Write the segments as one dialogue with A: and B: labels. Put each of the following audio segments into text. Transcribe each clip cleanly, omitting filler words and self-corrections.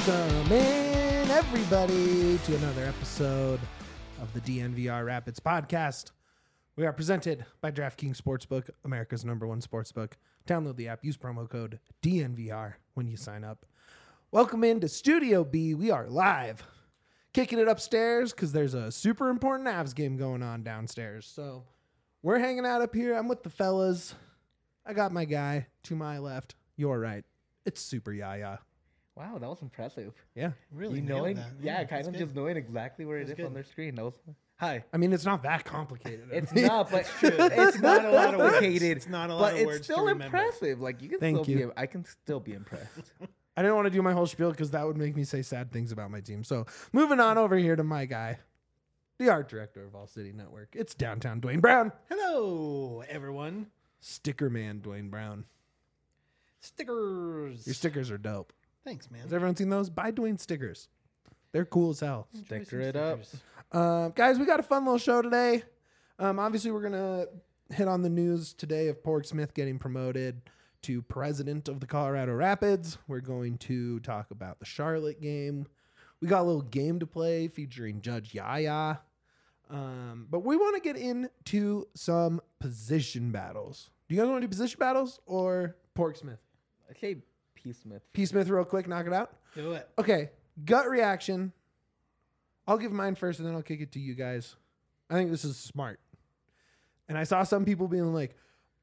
A: Welcome in, everybody, to another episode of the DNVR Rapids podcast. We are presented by DraftKings Sportsbook, America's #1 sportsbook. Download the app, use promo code DNVR when you sign up. Welcome into Studio B. We are live, kicking it upstairs because there's a super important Avs game going on downstairs. So we're hanging out up here. I'm with the fellas. I got my guy to my left. You're right. It's Super Yaya.
B: Wow, that was impressive.
A: Yeah.
C: Really,
B: knowing,
C: that.
B: yeah, kind
C: that's
B: of
C: good.
B: just knowing exactly where it is
C: good.
B: on their screen. That was hi.
A: I mean, it's not that complicated.
B: It's not, but it's not a lot of words.
C: It's not a lot
B: But
C: of words
B: it's still
C: to remember.
B: impressive. Like you can
A: Thank
B: still
A: you.
B: be. I can still be impressed.
A: I didn't want to do my whole spiel because that would make me say sad things about my team. So moving on over here to my guy, the art director of All City Network. It's downtown Dwayne Brown.
C: Hello, everyone.
A: Sticker man Dwayne Brown.
C: Stickers.
A: Your stickers are dope.
C: Thanks, man.
A: Has everyone seen those? Buy Dwayne stickers. They're cool as hell.
C: Enjoy
B: Sticker
C: some
B: it up.
C: stickers.
A: Guys, we got a fun little show today. Obviously, we're going to hit on the news today of Porg Smith getting promoted to president of the Colorado Rapids. We're going to talk about the Charlotte game. We got a little game to play featuring Judge Yaya. But we want to get into some position battles. Do you guys want to do position battles or Porg Smith?
B: I say P. Smith.
A: P. Smith real quick, knock it out.
C: Do it.
A: Okay, gut reaction. I'll give mine first and then I'll kick it to you guys. I think this is smart. And I saw some people being like,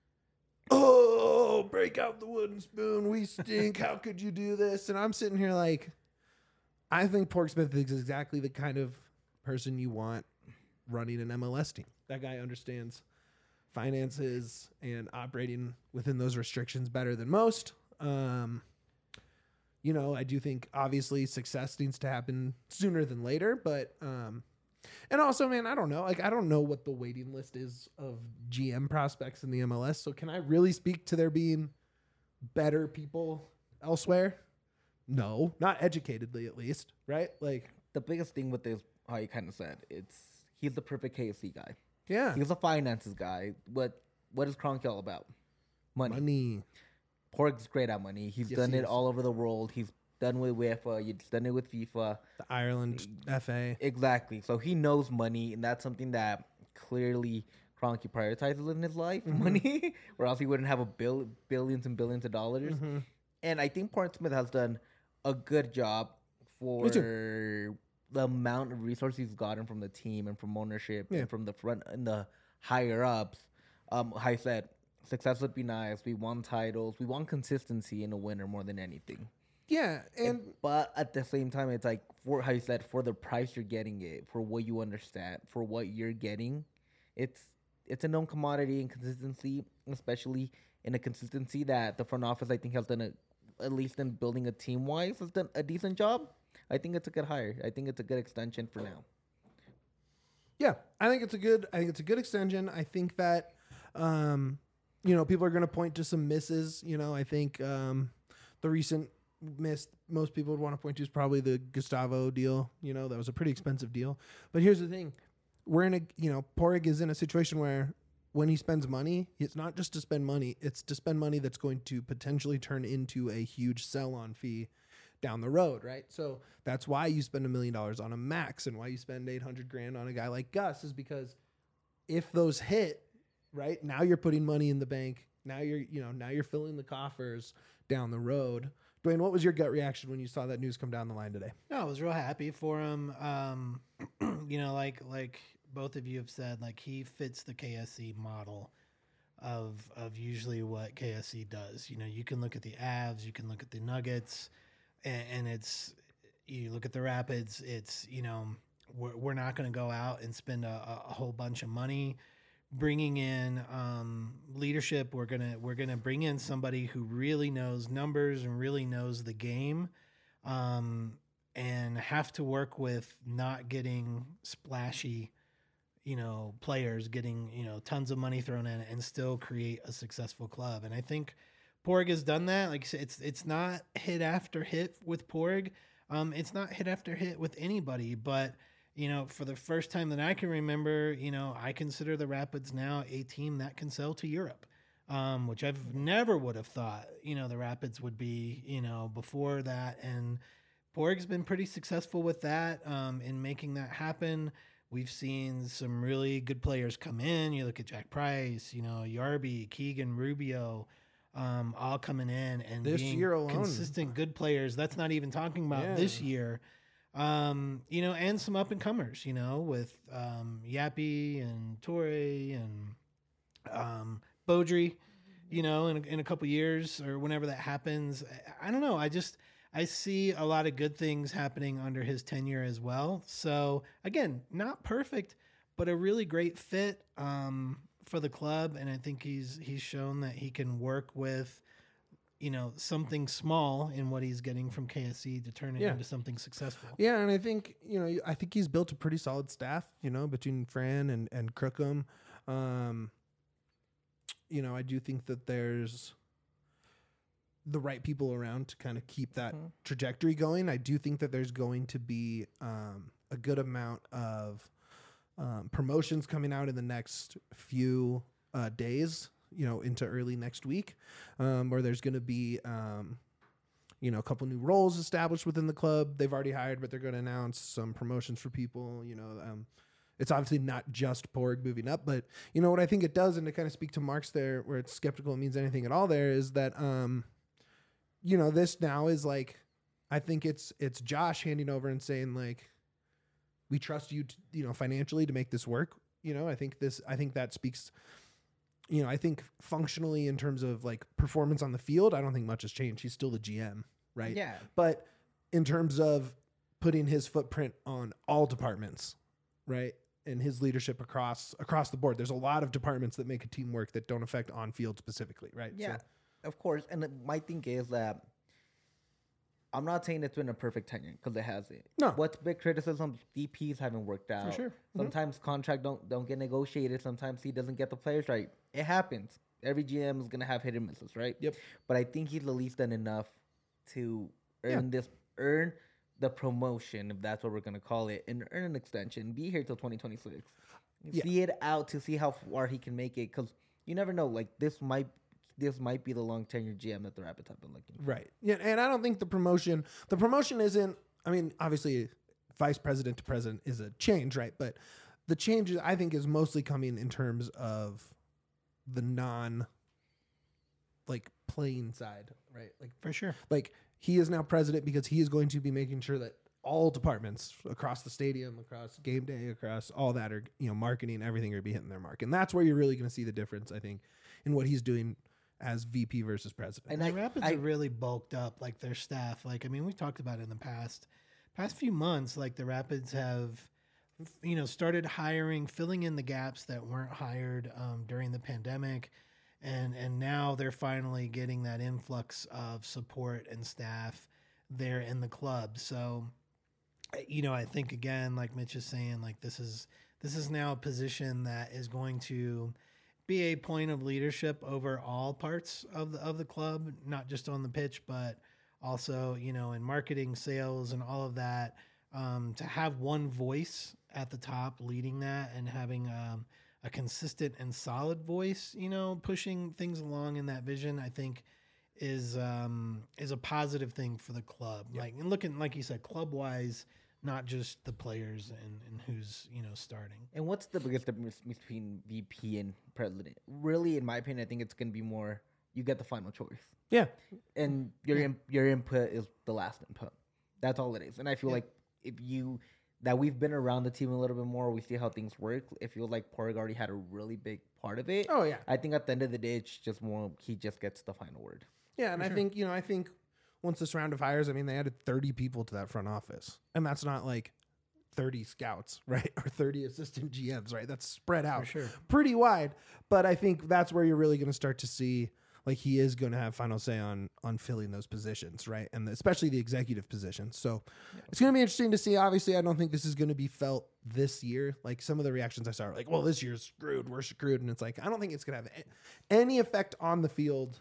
A: oh, break out the wooden spoon. We stink. How could you do this? And I'm sitting here like, I think Porg Smith is exactly the kind of person you want running an MLS team. That guy understands finances and operating within those restrictions better than most. I do think obviously success needs to happen sooner than later, but and also, man, I don't know. Like, I don't know what the waiting list is of GM prospects in the MLS. So can I really speak to there being better people elsewhere? No, not educatedly at least, right? Like,
B: The biggest thing with this, how you kind of said, he's the perfect KFC guy.
A: yeah,
B: He's a finances guy. What is Kroenke all about? Money. Porg's great at money. He's
A: Yes,
B: done
A: he
B: it
A: is.
B: all over the world. He's done with UEFA. He's done it with FIFA.
A: the Ireland FA.
B: Exactly. So he knows money, and that's something that clearly Kroenke prioritizes in his life, money, or else he wouldn't have billions and billions of dollars. And I think Porg Smith has done a good job for
A: Me too.
B: the amount of resources he's gotten from the team and from ownership
A: Yeah.
B: and from the front and the higher ups. I said, success would be nice. We want titles. We want consistency in a winner more than anything.
A: Yeah, and
B: But at the same time, it's like, for how you said, for the price you're getting it, for what you understand, for what you're getting, it's a known commodity in consistency, especially in a consistency that the front office, I think, has done at least in building a team wise, has done a decent job. I think it's a good hire. I think it's a good extension for now.
A: yeah, I think it's a good extension. I think that people are going to point to some misses. I think the recent miss most people would want to point to is probably the Gustavo deal. That was a pretty expensive deal. But here's the thing. We're in Porg is in a situation where when he spends money, it's not just to spend money, it's to spend money that's going to potentially turn into a huge sell-on fee down the road, right? So that's why you spend $1 million on a max and why you spend $800,000 on a guy like Gus is because if those hit, right, now you're putting money in the bank. Now you're filling the coffers down the road. Dwayne, what was your gut reaction when you saw that news come down the line today?
C: No, I was real happy for him. Like both of you have said, like he fits the KSC model of usually what KSC does. You can look at the Avs, you can look at the Nuggets, and it's you look at the Rapids. It's we're not going to go out and spend a whole bunch of money bringing in leadership. We're gonna bring in somebody who really knows numbers and really knows the game, and have to work with not getting splashy, players getting tons of money thrown in and still create a successful club. And I think Porg has done that. Like I said, it's not hit after hit with Porg. It's not hit after hit with anybody, but for the first time that I can remember, I consider the Rapids now a team that can sell to Europe, which I've never would have thought, the Rapids would be, before that. And Borg's been pretty successful with that in making that happen. We've seen some really good players come in. You look at Jack Price, Yarby, Keegan, Rubio, all coming in and
A: This
C: being
A: year alone.
C: consistent good players. That's not even talking about this year. And some up and comers, with Yappy and Torre and Beaudry, in a couple years or whenever that happens. I don't know. I see a lot of good things happening under his tenure as well. So again, not perfect, but a really great fit for the club. And I think he's shown that he can work with, something small in what he's getting from KSC to turn it into something successful.
A: Yeah, and I think he's built a pretty solid staff, between Fran and Crookham. I do think that there's the right people around to kind of keep that trajectory going. I do think that there's going to be a good amount of promotions coming out in the next few days, into early next week, where there's going to be, a couple new roles established within the club. They've already hired, but they're going to announce some promotions for people. It's obviously not just Borg moving up, but what I think it does, and to kind of speak to Mark's there, where it's skeptical it means anything at all there, is that this now is like, I think it's Josh handing over and saying like, we trust you, financially to make this work. I think that speaks. I think functionally in terms of like performance on the field, I don't think much has changed. He's still the GM, right?
B: Yeah.
A: But in terms of putting his footprint on all departments, right, and his leadership across the board, there's a lot of departments that make a team work that don't affect on field specifically, right?
B: Yeah, of course. And my thing is that I'm not saying it's been a perfect tenure because it hasn't.
A: No.
B: What's big criticism? DPs haven't worked out.
A: For sure.
B: Sometimes contract don't get negotiated. Sometimes he doesn't get the players right. It happens. Every GM is gonna have hit and misses, right?
A: Yep.
B: But I think he's at least done enough to earn the promotion, if that's what we're gonna call it, and earn an extension. Be here till 2026. See it out to see how far he can make it, because you never know. Like this might be the long tenure GM that the Rapids have been looking for.
A: Right. Yeah, and I don't think the promotion isn't, I mean, obviously vice president to president is a change, right? But the change I think is mostly coming in terms of the non like playing side, right? Like
C: For sure.
A: like he is now president because he is going to be making sure that all departments across the stadium, across game day, across all that are, marketing, everything are be hitting their mark. And that's where you're really going to see the difference, I think, in what he's doing as VP versus president.
C: And the Rapids have really bulked up like their staff. Like, I mean, we talked about it in the past few months, like the Rapids have, started hiring, filling in the gaps that weren't hired during the pandemic. And now they're finally getting that influx of support and staff there in the club. So, I think again, like Mitch is saying, like this is now a position that is going to be a point of leadership over all parts of the club, not just on the pitch, but also, in marketing, sales, and all of that. To have one voice at the top leading that and having a consistent and solid voice, pushing things along in that vision, I think is a positive thing for the club. Yep. Like, and looking, like you said, club wise, not just the players and who's, starting.
B: And what's the biggest difference between VP and president? Really, in my opinion, I think it's going to be more, you get the final choice.
A: Yeah.
B: And your input is the last input. That's all it is. And I feel like that we've been around the team a little bit more, we see how things work. It feels like Porg already had a really big part of it.
A: Oh, yeah.
B: I think at the end of the day, it's just more, he just gets the final word.
A: Yeah, and I think once this round of hires, I mean, they added 30 people to that front office. And that's not like 30 scouts, right? Or 30 assistant GMs, right? That's spread out pretty wide. But I think that's where you're really going to start to see, like, he is going to have final say on filling those positions, right? And especially the executive positions. So it's going to be interesting to see. Obviously, I don't think this is going to be felt this year. Like, some of the reactions I saw are like, well, this year's screwed. We're screwed. And it's like, I don't think it's going to have any effect on the field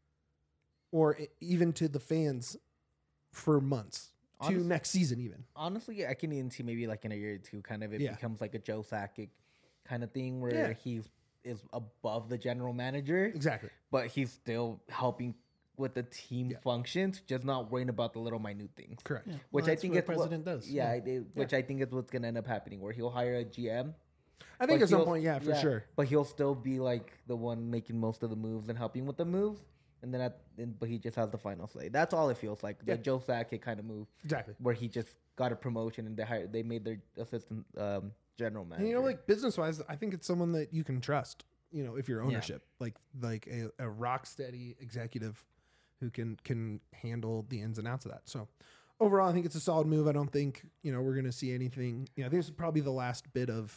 A: or even to the fans for months, to next season even.
B: Honestly, I can even see maybe like in a year or two, kind of it becomes like a Joe Sakic kind of thing where he is above the general manager.
A: Exactly.
B: But he's still helping with the team
A: Yeah.
B: functions, just not worrying about the little minute things.
A: Correct.
C: Yeah.
B: Which
C: Well,
B: I
C: that's
B: think
C: what
B: it's
C: a president does.
B: Yeah, which I think is what's gonna end up happening, where he'll hire a GM.
A: I think
B: but
A: at some
B: he'll-
A: point, yeah, for sure.
B: But he'll still be like the one making most of the moves and helping with the moves, and then but he just has the final say. That's all it feels like. The
A: Yeah.
B: Joe Sakic kind of move,
A: Exactly.
B: where he just got a promotion and they made their assistant general manager.
A: And, you know, like business wise, I think it's someone that you can trust. You know, if you're ownership, like a rock steady executive who can handle the ins and outs of that. So overall, I think it's a solid move. I don't think we're gonna see anything. I think this is probably the last bit of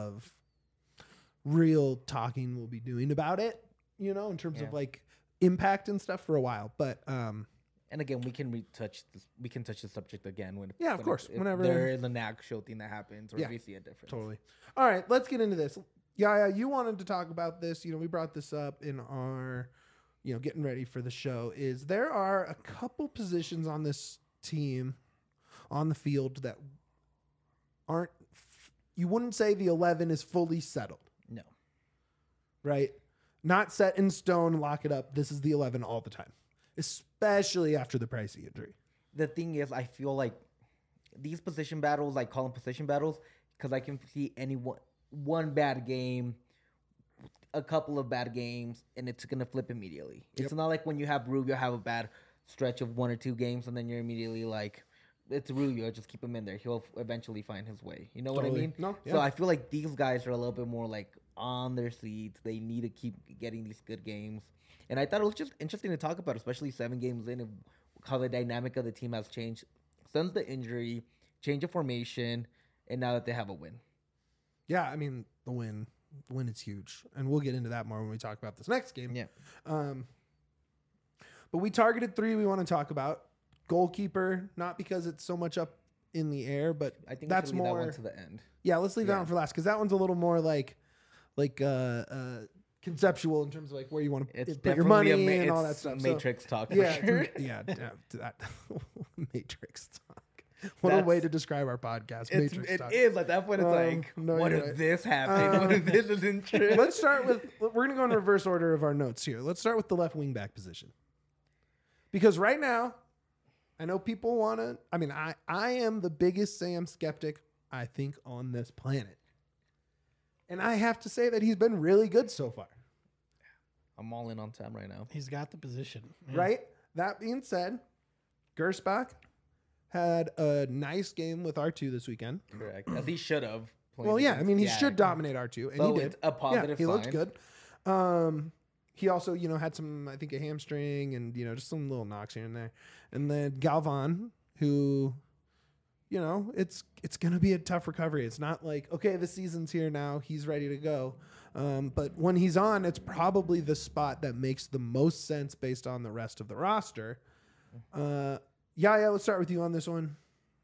A: real talking we'll be doing about it. In terms
B: Yeah.
A: of like impact and stuff for a while. But
B: and again, we can touch the subject again when
A: Yeah, of course,
B: if
A: whenever-
B: there is an actual thing that happens or
A: Yeah,
B: if we see a difference.
A: totally. All right, let's get into this. Yeah, you wanted to talk about this. We brought this up in our, getting ready for the show. Is there are a couple positions on this team, on the field that aren't. You wouldn't say the 11 is fully settled,
B: No.
A: right? Not set in stone. Lock it up. This is the 11 all the time, especially after the Pricey injury.
B: The thing is, I feel like these position battles, I call them position battles, because I can see one bad game, a couple of bad games, and it's gonna flip immediately.
A: Yep.
B: It's not like when you have Rubio have a bad stretch of 1 or 2 games, and then you're immediately like, it's Rubio, just keep him in there. He'll eventually find his way. You know what I
A: Totally.
B: mean?
A: No,
B: So
A: yeah.
B: I feel like these guys are a little bit more like on their seats. They need to keep getting these good games. And I thought it was just interesting to talk about, especially 7 games in, of how the dynamic of the team has changed since the injury, change of formation, and now that they have a win.
A: Yeah, I mean the win is huge, and we'll get into that more when we talk about this next game.
B: Yeah.
A: But we targeted 3 we want to talk about. Goalkeeper, not because it's so much up in the air, but
B: I think
A: that's
B: we should leave
A: more.
B: that one to the end.
A: Yeah, let's leave that
B: Yeah.
A: one for last because that one's a little more like conceptual in terms of like where you want to
B: It's
A: put your money
B: definitely
A: and all that
B: it's
A: stuff.
B: Matrix talk for
A: yeah,
B: sure.
A: that Matrix talk. What a way
B: That's-
A: to describe our podcast.
B: It
A: Matrix talk.
B: is at that point. It's like,
A: no,
B: what
A: you're
B: if
A: right.
B: this happened? What if this isn't true?
A: Let's start with. We're going to go in reverse order of our notes here. Let's start with the left wing back position. Because right now, I know people want to. I mean, I am the biggest Sam skeptic, I think, on this planet. And I have to say that he's been really good so far.
B: I'm all in on Sam right now.
C: He's got the position. Yeah.
A: Right? That being said, Gersbach had a nice game with R2 this weekend.
B: Correct. As he should have.
A: Well, yeah, I mean, he should dominate R2, and
B: So
A: he did.
B: it's a positive
A: he looked
B: sign.
A: good. He also, had some, I think, a hamstring and, just some little knocks here and there. And then Galvan, who, it's going to be a tough recovery. It's not like, okay, the season's here now. He's ready to go. But when he's on, it's probably the spot that makes the most sense based on the rest of the roster. Yeah, let's start with you on this one.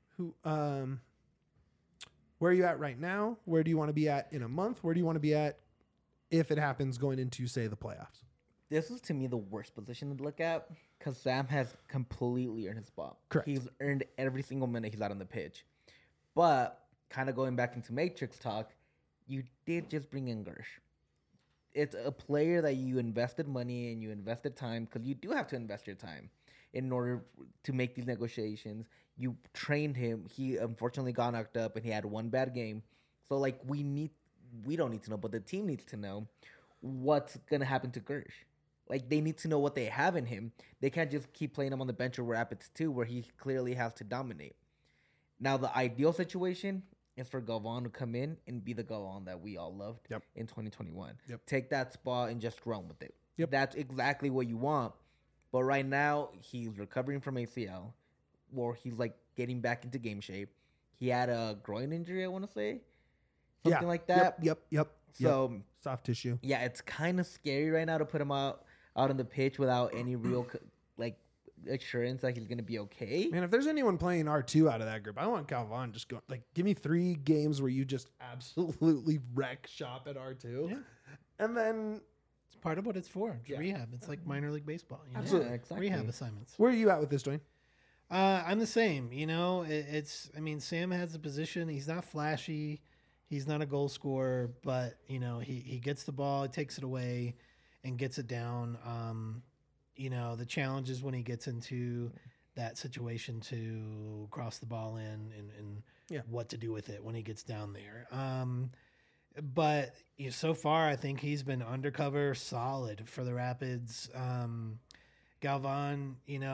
A: Where are you at right now? Where do you want to be at in a month? Where do you want to be at if it happens going into, say, the playoffs?
B: This is, to me, the worst position to look at because Sam has completely earned his spot.
A: Correct.
B: He's earned every single minute he's out on the pitch. But kind of going back into Matrix talk, you did just bring in Gersh. It's a player that you invested money and you invested time because you do have to invest your time in order to make these negotiations. You trained him. He unfortunately got knocked up and he had one bad game. So, like, we don't need to know, but the team needs to know what's going to happen to Gersh. Like, they need to know what they have in him. They can't just keep playing him on the bench or Rapids 2 where he clearly has to dominate. Now, the ideal situation is for Galvan to come in and be the Galvan that we all loved in 2021.
A: Yep.
B: Take that spot and just run with it.
A: Yep.
B: That's exactly what you want. But right now, he's recovering from ACL, or he's, like, getting back into game shape. He had a groin injury, I want to say. Something like that.
A: Yep.
B: So,
A: Soft tissue.
B: yeah, it's kind of scary right now to put him out on the pitch without any real, assurance that he's going to be okay.
A: Man, if there's anyone playing R2 out of that group, I want Galvan just go, give me 3 games where you just absolutely wreck shop at R2.
C: Yeah.
A: And then,
C: It's part of what it's for. It's
A: Yeah.
C: rehab. It's like minor league baseball.
A: Absolutely.
B: Yeah, exactly.
C: Rehab assignments.
A: where are you at with this, Dwayne?
C: I'm the same. Sam has a position. He's not flashy. He's not a goal scorer, but he gets the ball, he takes it away, and gets it down. the challenge is when he gets into that situation to cross the ball in and
A: Yeah.
C: what to do with it when he gets down there. But so far, I think he's been undercover solid for the Rapids. Galvan,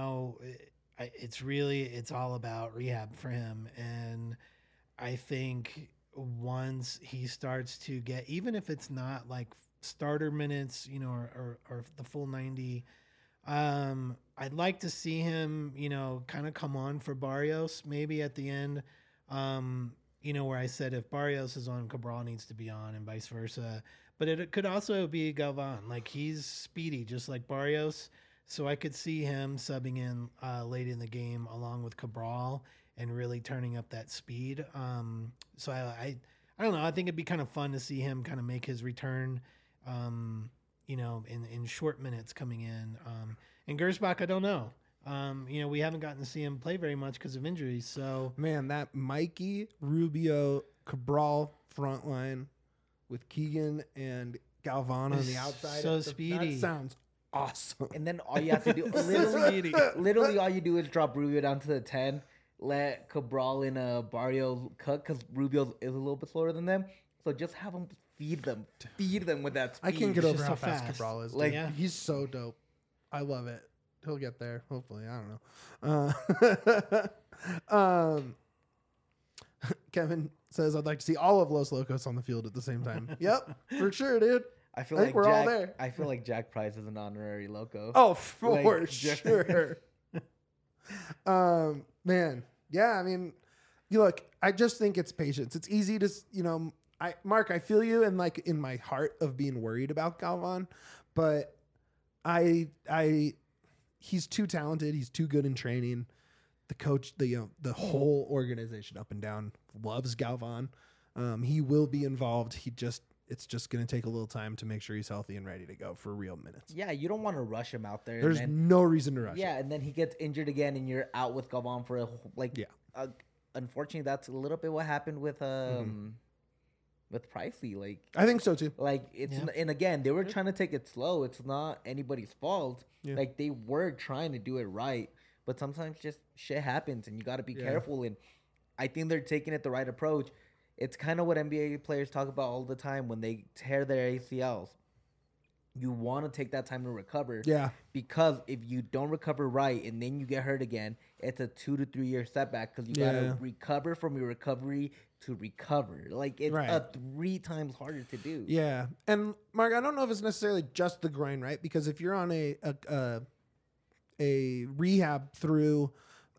C: it's all about rehab for him. And I think once he starts to get, even if it's not like starter minutes, or the full 90, I'd like to see him, kind of come on for Barrios maybe at the end. Where I said if Barrios is on, Cabral needs to be on and vice versa. But it could also be Galvan. Like, he's speedy, just like Barrios. So I could see him subbing in late in the game along with Cabral and really turning up that speed. So I don't know. I think it'd be kind of fun to see him kind of make his return, in short minutes coming in. And Gersbach, I don't know. We haven't gotten to see him play very much because of injuries. So
A: Man, that Mikey, Rubio, Cabral front line with Keegan and Galvan on the outside.
C: so speedy.
A: That sounds awesome.
B: And then all you have to do, literally all you do is drop Rubio down to the 10, let Cabral and Barrio cook because Rubio is a little bit slower than them. So just have them feed them with that speed.
A: I can't get over
C: just
A: how
C: so
A: fast
C: fast.
A: Cabral is.
B: Like,
A: Like,
C: yeah.
A: he's so dope. I love it. He'll get there. Hopefully. I don't know. Kevin says, I'd like to see all of Los Locos on the field at the same time. Yep, for sure, dude.
B: I feel
A: I think
B: like
A: we're all
B: Jack,
A: there.
B: I feel like Jack Price is an honorary loco.
A: Oh, for
B: Like,
A: sure. Man. Yeah, I mean, look, I just think it's patience. It's easy to, Mark, I feel you in in my heart of being worried about Galvan, but he's too talented. He's too good in training. The coach, the whole organization up and down loves Galvan. He will be involved. It's just going to take a little time to make sure he's healthy and ready to go for real minutes.
B: Yeah, you don't want to rush him out there.
A: There's
B: and then,
A: no reason to rush.
B: yeah, and then he gets injured again, and you're out with Galvan for a unfortunately, that's a little bit what happened with with Pricey. Like,
A: I think so too.
B: And again, they were trying to take it slow. It's not anybody's fault.
A: Yeah.
B: Like, they were trying to do it right, but sometimes just shit happens, and you got to be careful. And I think they're taking it the right approach. It's kind of what NBA players talk about all the time when they tear their ACLs. You want to take that time to recover.
A: Yeah.
B: Because if you don't recover right and then you get hurt again, it's a 2 to 3 year setback because you got to recover from your recovery to recover. Like, it's
A: Right.
B: 3 times harder to do.
A: Yeah. And Mark, I don't know if it's necessarily just the grind, right? Because if you're on a rehab through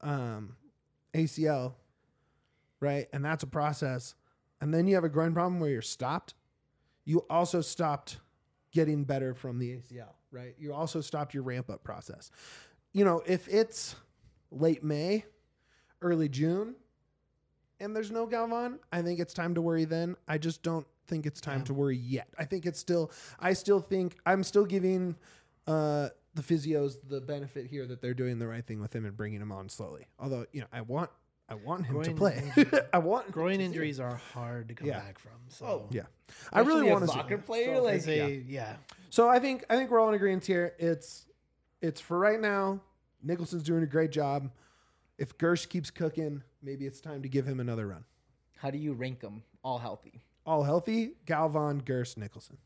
A: ACL, right? And that's a process. And then you have a grind problem where you're stopped. You also stopped getting better from the ACL, right? You also stopped your ramp up process. If it's late May, early June, and there's no Galvan, I think it's time to worry then. I just don't think it's time to worry yet. I think I'm still giving the physios the benefit here that they're doing the right thing with him and bringing him on slowly. Although, I want him to play. I want
C: groin injuries are hard to come back from. So
A: yeah. I really want to see
B: soccer
A: him.
B: player.
C: so
B: Like,
C: as a,
A: So I think we're all in agreement here. It's for right now. Nicholson's doing a great job. If Gersh keeps cooking, maybe it's time to give him another run.
B: how do you rank them all healthy?
A: All healthy, Galvan, Gersh, Nicholson.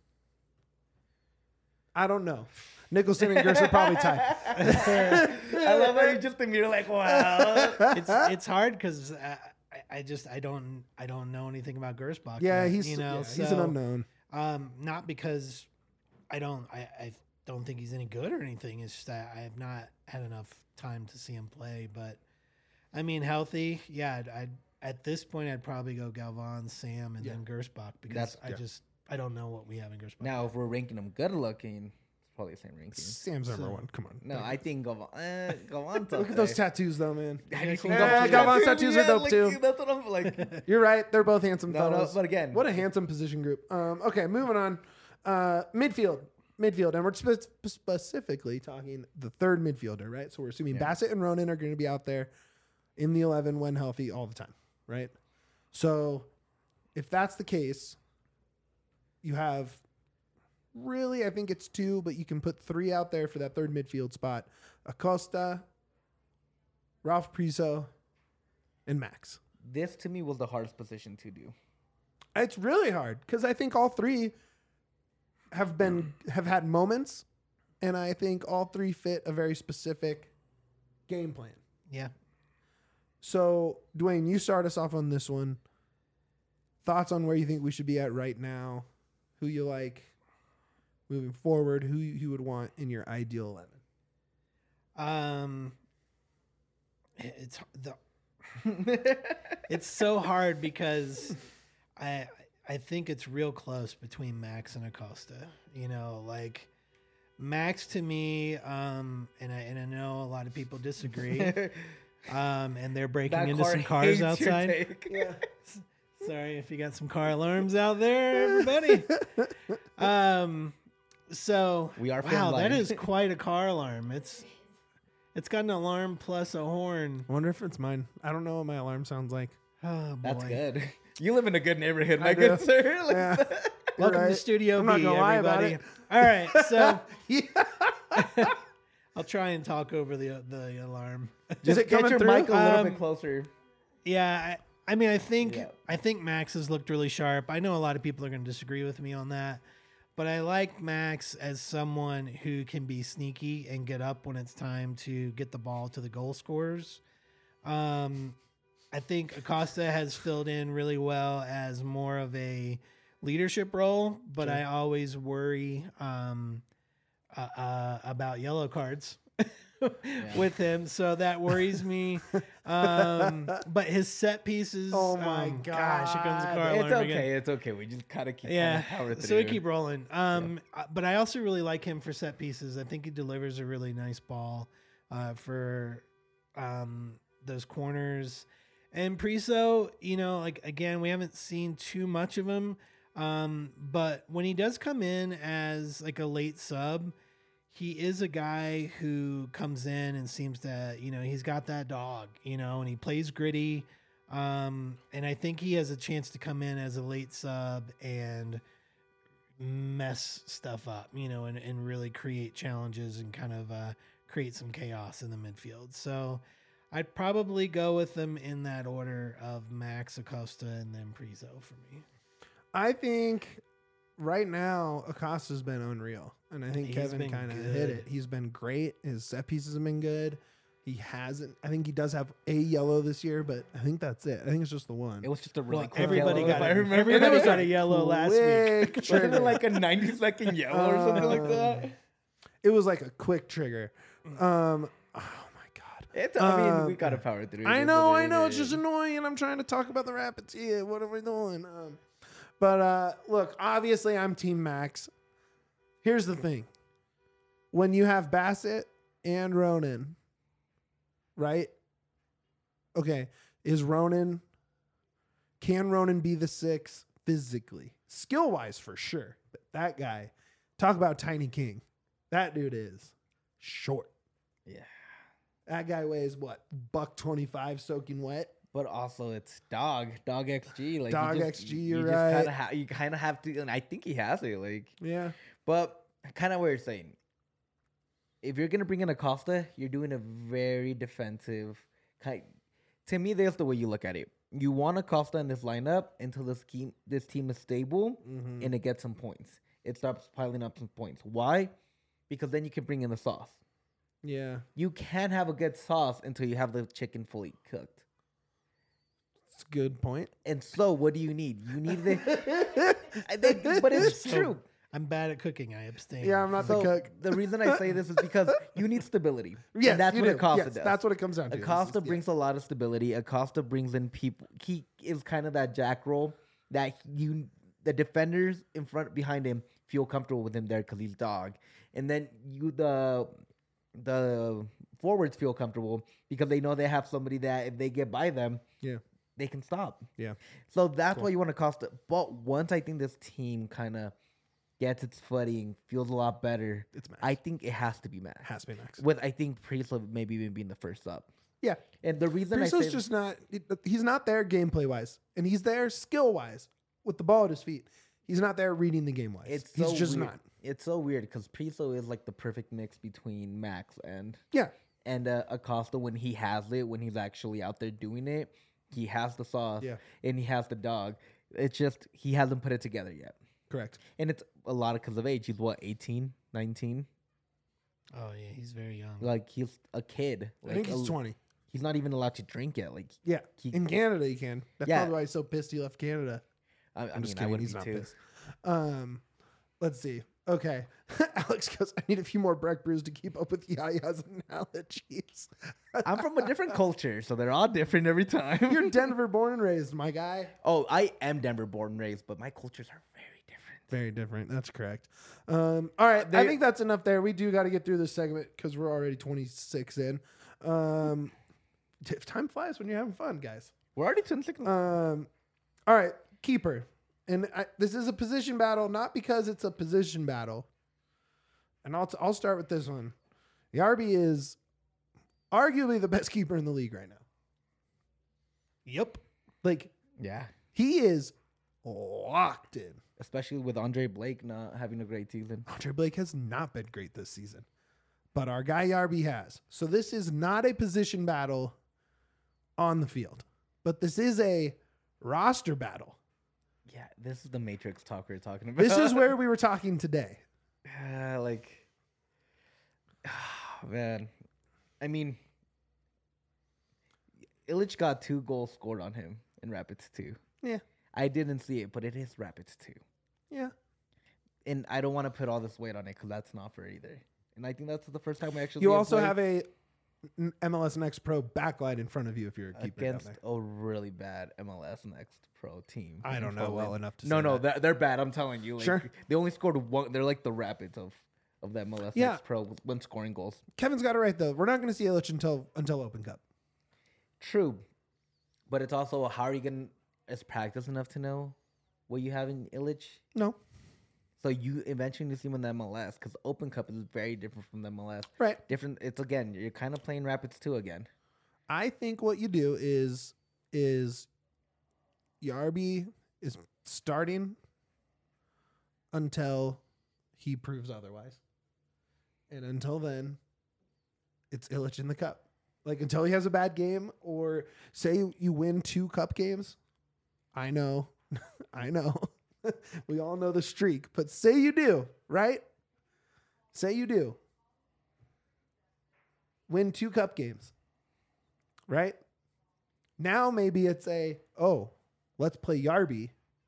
A: I don't know. Nicholson and Gersh are probably tied.
B: I love how you just think you're like, wow.
C: it's hard because I don't know anything about Gersbach.
A: Yeah,
C: yet,
A: he's he's an unknown.
C: Not because I don't think he's any good or anything. It's just that I have not had enough time to see him play. But I mean, healthy, yeah. At this point, I'd probably go Galvan, Sam, and then Gersbach because I don't know what we have in Gersbach.
B: Now, if we're ranking them good looking, it's probably the same ranking.
A: Sam's number one. Come on.
B: No, I think Galvan's
A: Look at those tattoos, though, man.
B: Have you seen
A: Yeah,
B: Galvan's
A: Galvan's tattoos are dope, too.
B: That's what I'm like.
A: You're right. They're both handsome
B: No,
A: fellas.
B: but again,
A: What a handsome position group. Okay, moving on. Midfield, and we're specifically talking the third midfielder, right? So we're assuming Bassett and Ronan are going to be out there in the 11 when healthy all the time, right? So if that's the case, you have really, I think it's 2, but you can put 3 out there for that third midfield spot. Acosta, Ralph Priso, and Max.
B: This to me was the hardest position to do.
A: It's really hard because I think all 3 have had moments, and I think all 3 fit a very specific game plan.
C: Yeah.
A: So, Dwayne, you start us off on this one. Thoughts on where you think we should be at right now? Who you like moving forward? Who you would want in your ideal 11?
C: It's so hard because I think it's real close between Max and Acosta. You know, like Max to me, and I know a lot of people disagree. And they're breaking into some cars outside.
A: Yeah.
C: Sorry if you got some car alarms out there, everybody. So
B: We are
C: wow, that
B: film-blind.
C: is quite a car alarm. It's got an alarm plus a horn.
A: I wonder if it's mine. I don't know what my alarm sounds like.
C: Oh boy.
B: That's good. You live in a good neighborhood,
A: I
B: my
A: do.
B: good sir. Like,
A: Yeah.
C: Welcome
A: You're
C: to
A: right.
C: Studio
A: I'm
C: B,
A: not gonna lie about
C: everybody. All right, so
A: Yeah.
C: I'll try and talk over the alarm.
A: Is it
B: get
A: coming
B: your
A: through?
B: mic a little
C: Um,
B: bit closer.
C: Yeah, I mean, I think
B: Yeah.
C: Max has looked really sharp. I know a lot of people are going to disagree with me on that, but I like Max as someone who can be sneaky and get up when it's time to get the ball to the goal scorers. I think Acosta has filled in really well as more of a leadership role, but I always worry about yellow cards. With him, so that worries me. But his set pieces.
A: Oh my
C: gosh! Here comes the
A: God.
C: car
B: It's
C: alarm
B: okay.
C: again.
B: It's okay. We just kind of keep
C: Yeah,
B: power through.
C: so we keep rolling. But I also really like him for set pieces. I think he delivers a really nice ball for those corners. And Priso, you know, like again, we haven't seen too much of him. But when he does come in as like a late sub, he is a guy who comes in and seems to, you know, he's got that dog, you know, and he plays gritty. And I think he has a chance to come in as a late sub and mess stuff up, you know, and really create challenges and kind of create some chaos in the midfield. So I'd probably go with them in that order of Max, Acosta, and then Priso for me.
A: I think right now Acosta's been unreal, and I think
C: He's
A: Kevin
C: been
A: kind of
C: good.
A: hit it. He's been great. His set pieces have been good. He hasn't. I think he does have a yellow this year, but I think that's it. I think it's just the one.
B: It was just a really
C: Well,
B: quick
C: everybody
B: yellow,
C: got
B: if I
C: it.
B: remember.
C: Everybody
B: right.
C: got a yellow last week.
A: Quick
B: Wasn't
A: trigger.
B: it like a 90-second yellow or something like that?
A: It was like a quick trigger. Oh my god.
B: It's, I mean, we gotta power through.
A: I
B: It is
A: know,
B: what
A: I
B: it
A: know. It's
B: is.
A: just annoying, and I'm trying to talk about the Rapids here. What are we doing? But look, obviously, I'm Team Max. Here's the thing: when you have Bassett and Ronan, right? Okay, can Ronan be the 6 physically? Skill wise, for sure. But that guy, talk about Tiny King. That dude is short.
B: Yeah.
A: That guy weighs what? $125 soaking wet.
B: But also, it's dog XG. Like
A: Dog
B: you just,
A: XG,
B: you
A: you're
B: just
A: right.
B: You kind of have to, and I think he has it. Like,
A: Yeah.
B: but kind of what you're saying. If you're gonna bring in Acosta, you're doing a very defensive kind. To me, that's the way you look at it. You want Acosta in this lineup until this team is stable
A: Mm-hmm.
B: and it gets some points. It starts piling up some points. Why? Because then you can bring in the sauce.
A: Yeah.
B: You can't have a good sauce until you have the chicken fully cooked.
A: It's a good point.
B: And so, what do you need? You need the. But it's
C: So,
B: true.
C: I'm bad at cooking. I abstain.
A: Yeah, I'm not the
B: So
A: cook.
B: the reason I say this is because you need stability.
A: Yes,
B: and that's
A: you
B: what
A: do.
B: Acosta
A: Yes,
B: does.
A: that's what it comes down to.
B: Acosta brings a lot of stability. Acosta brings in people. He is kind of that jack role that the defenders in front behind him feel comfortable with him there because he's dog, and then the forwards feel comfortable because they know they have somebody that if they get by them,
A: Yeah.
B: they can stop.
A: Yeah.
B: So that's why you want Acosta. But once I think this team kind of gets its footing, feels a lot better,
A: It's Max.
B: I think it has to be Max.
A: Has to be Max.
B: With I think Priest maybe even being the first up.
A: Yeah.
B: And the reason I
A: Priso's
B: say
A: just not. He's not there gameplay wise, and he's there skill wise with the ball at his feet. He's not there reading the game wise.
B: it's
A: He's
B: so
A: just
B: weird.
A: not.
B: It's so weird because Priso is like the perfect mix between Max and
A: Yeah.
B: Acosta when he has it, when he's actually out there doing it. He has the sauce
A: Yeah.
B: and he has the dog. It's just he hasn't put it together yet.
A: Correct.
B: And it's a lot because of age. He's what, 18, 19?
C: Oh yeah, he's very young.
B: Like he's a kid.
A: I think
B: Like,
A: he's 20.
B: He's not even allowed to drink yet. Like
A: Yeah.
B: he-
A: In Canada, you can. That's
B: Yeah.
A: probably why he's so pissed he left Canada.
B: I
A: I'm just
B: mean, I
A: kidding.
B: would
A: He's
B: be
A: not
B: too.
A: pissed. Let's see. Okay. Alex goes, I need a few more Breck brews to keep up with Yaya's analogies.
B: I'm from a different culture, so they're all different every time.
A: You're Denver born and raised, my guy.
B: Oh, I am Denver born and raised, but my cultures are very different.
A: Very different. That's correct. All right. I think that's enough there. We do got to get through this segment because we're already 26 in. Time flies when you're having fun, guys.
B: We're already 26.
A: All right. Keeper. And this is a position battle, not because it's a position battle. And I'll start with this one. Yarby is arguably the best keeper in the league right now.
C: Yep.
A: Like,
B: Yeah.
A: he is locked in.
B: Especially with Andre Blake not having a great season.
A: Andre Blake has not been great this season, but our guy Yarby has. So this is not a position battle on the field, but this is a roster battle.
B: Yeah, this is the Matrix talk we're talking about.
A: This is where we were talking today.
B: Man. I mean, Illich got 2 goals scored on him in Rapids 2.
A: Yeah.
B: I didn't see it, but it is Rapids 2.
A: Yeah.
B: And I don't want to put all this weight on it because that's not fair either. And I think that's the first time we actually
A: You also have a MLS Next Pro backlight in front of you if you're a keeper down
B: against
A: there.
B: a really bad MLS Next Pro team.
A: I don't know well enough to
B: No,
A: say
B: no,
A: that.
B: they're bad. I'm telling you. Like,
A: Sure.
B: They only scored 1. They're like the Rapids of the MLS
A: Yeah.
B: Next Pro when scoring goals.
A: Kevin's got it right though. We're not going to see Illich until Open Cup.
B: True, but it's also how are you gonna is practice enough to know what you have in Illich?
A: No.
B: So you eventually see him in the MLS because Open Cup is very different from the MLS.
A: Right.
B: Different. It's again, you're kind of playing Rapids 2 again.
A: I think what you do is Yarby is starting until he proves otherwise. And until then, it's Illich in the cup. Like until he has a bad game or say you win 2 cup games. I know. I know. We all know the streak, but say you do, right? Say you do. Win 2 cup games. Right? Now maybe it's let's play Yarby.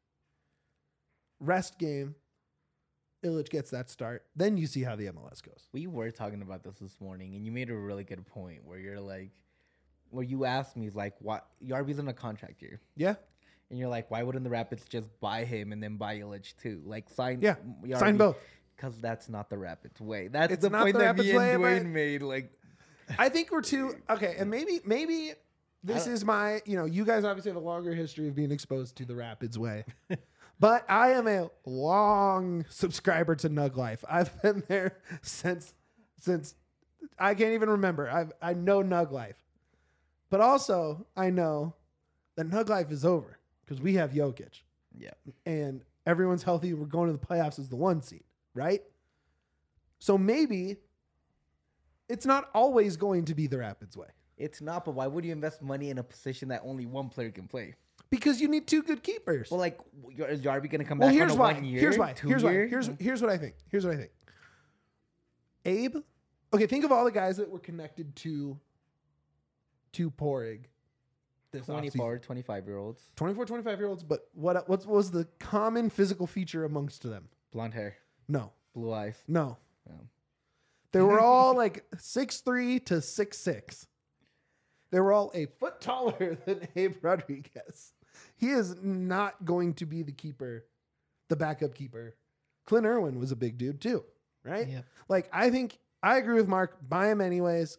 A: Rest game. Illich gets that start. Then you see how the MLS goes.
B: We were talking about this morning, and you made a really good point where you're like, where you asked me like, what Yarby's in a contract year,
A: Yeah.
B: and you're like, why wouldn't the Rapids just buy him and then buy Illich too? Like sign,
A: Yeah.
B: Yarby,
A: Sign both.
B: because that's not the Rapids way. That's
A: It's
B: the
A: not
B: point
A: the
B: that
A: Rapids
B: me and
A: way,
B: Dwayne
A: but-
B: made. Like,
A: I think we're too okay, and maybe this is my, you guys obviously have a longer history of being exposed to the Rapids way. But I am a long subscriber to Nug Life. I've been there since I can't even remember. I know Nug Life. But also I know that Nug Life is over because we have Jokic.
B: yeah,
A: And everyone's healthy. We're going to the playoffs as the 1 seed, right? So maybe it's not always going to be the Rapids way
B: it's not. But why would you invest money in a position that only one player can play?
A: because you need 2 good keepers.
B: Well, like, is Yarby gonna come
A: Well,
B: back?
A: here's
B: on a
A: why.
B: 1 year,
A: Here's why.
B: 2
A: Here's why.
B: year?
A: Here's what I think. Here's what I think. Abe. Okay, think of all the guys that were connected to Porig. This
B: 24, 25-year-olds,
A: 24, 25-year-olds. But what was the common physical feature amongst them?
B: blonde hair,
A: No.
B: blue eyes.
A: No.
B: Oh.
A: They were all like 6'3" to 6'6". They were all a foot taller than Abe Rodriguez. He is not going to be the keeper, the backup keeper. Clint Irwin was a big dude too, right?
C: Yep.
A: Like, I think I agree with Mark. Buy him anyways.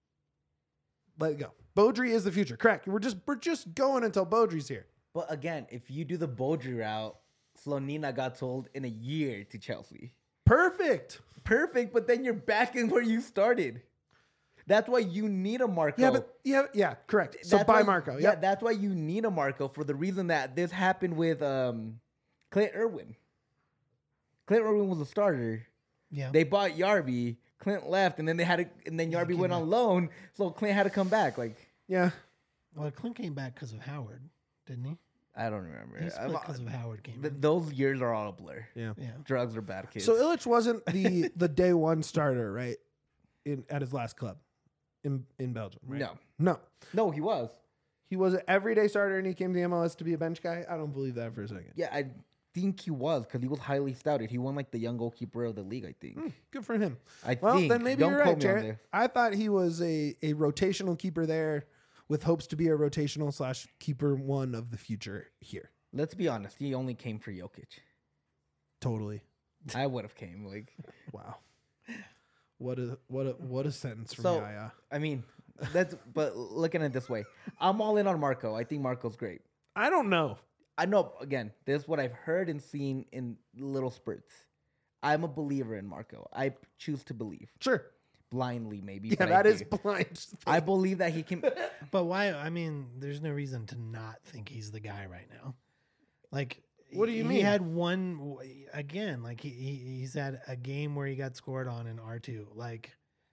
A: Let it go. Beaudry is the future. Correct. We're just going until Beaudry's here.
B: But again, if you do the Beaudry route, Slonina got sold in a year to Chelsea.
A: Perfect.
B: Perfect, but then you're back in where you started. That's why you need a Marco.
A: Yeah, correct. So
B: That's
A: buy
B: why-
A: Marco.
B: Yeah,
A: Yep.
B: that's why you need a Marco for the reason that this happened with Clint Irwin. Clint Irwin was a starter.
C: Yeah.
B: They bought Yarby. Clint left, and then Yarby went on loan, so Clint had to come back. Like,
A: Yeah.
C: Well, Clint came back because of Howard, didn't he?
B: I don't remember.
C: He split because of Howard came in.
B: Those years are all a blur.
A: Yeah.
C: Yeah.
B: Drugs are bad kids.
A: So Illich wasn't the day one starter, right? At his last club in Belgium, right?
B: No, he was.
A: He was an everyday starter and he came to the MLS to be a bench guy. I don't believe that for a second.
B: Yeah, I think he was because he was highly scouted. He won like the young goalkeeper of the league, I think.
A: Good for him.
B: Well,
A: Then maybe
B: Don't
A: you're right,
B: quote me on
A: Jarrett.
B: this.
A: I thought he was a rotational keeper there with hopes to be a rotational / keeper one of the future here.
B: Let's be honest. He only came for Jokic.
A: Totally.
B: I would have came. Like,
A: Wow. What a sentence from
B: So-
A: Yaya.
B: I mean, but looking at it this way, I'm all in on Marco. I think Marco's great.
A: I don't know.
B: I know, again, this is what I've heard and seen in little spurts. I'm a believer in Marco. I choose to believe.
A: Sure.
B: Blindly, maybe.
A: Yeah,
B: but
A: that
B: I
A: is
B: do.
A: blind.
B: I believe that he can.
C: But why? I mean, there's no reason to not think he's the guy right now. Like,
A: What do you
C: he
A: mean?
C: had one again. Like he's had a game where he got scored on in R2. Like,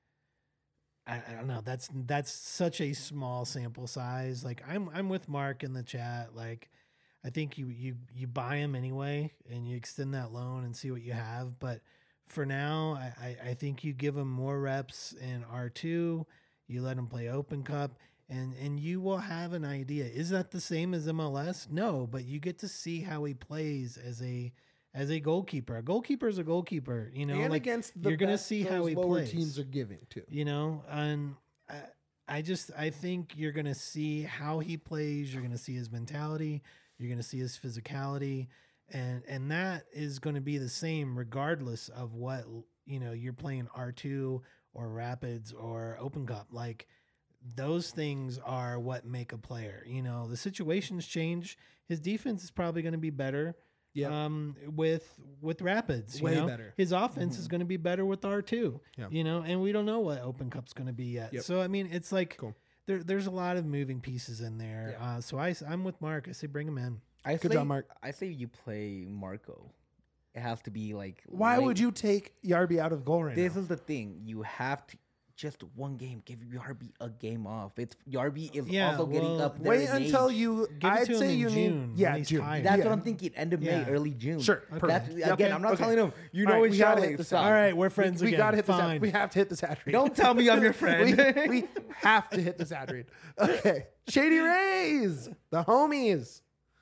C: I don't know. That's such a small sample size. Like, I'm with Mark in the chat. Like, I think you buy him anyway, and you extend that loan and see what you have. But for now, I think you give him more reps in R2. You let him play Open Cup, and you will have an idea. Is that the same as MLS? No, but you get to see how he plays as a goalkeeper. A goalkeeper is a goalkeeper. You know,
A: and
C: like
A: against the
C: you're gonna
A: best
C: see how
A: those
C: he
A: lower
C: plays.
A: teams are giving too.
C: You know, and I think you're gonna see how he plays. You're gonna see his mentality. You're gonna see his physicality, and that is going to be the same regardless of what you're playing R2 or Rapids or Open Cup. Like, those things are what make a player. You know, the situations change. His defense is probably going to be better.
A: Yeah.
C: With Rapids,
A: Way
C: you know?
A: better.
C: His offense is going to be better with R2.
A: Yeah.
C: You know, and we don't know what Open Cup's going to be yet.
A: Yep.
C: So I mean, it's like
A: Cool.
C: there's a lot of moving pieces in there.
A: Yeah.
C: So I'm with Mark. I say bring him in.
A: Good job, Mark.
B: I say you play Marco. It has to be like.
A: Why
B: late.
A: would you take Yarby out of goal right
B: This
A: now?
B: is the thing. You have to just one game. Give Yarby a game off. It's Yarby is
C: Yeah,
B: also getting
C: well,
B: up there.
A: Wait
B: in
A: until
B: age.
A: you.
C: Give it
A: I'd
C: to him
A: say
C: in
A: you
C: June
A: need. Yeah,
C: when he's
A: June.
C: tired.
B: That's
A: Yeah.
B: what I'm thinking. End of May,
C: Yeah.
B: early June.
A: Sure.
C: Okay.
B: That's,
A: Perfect. Yep.
B: again, I'm not
A: Okay.
B: telling him. You
A: All
B: know
A: right,
B: it's
A: we gotta
B: Charlie.
A: hit this
B: Stop.
A: out.
C: All right, we're friends
A: We
C: again.
A: gotta hit this.
C: Fine.
A: We have to hit this ad read.
B: Don't tell me I'm your friend.
A: we have to hit this ad read. Okay. Shady Rays, the homies.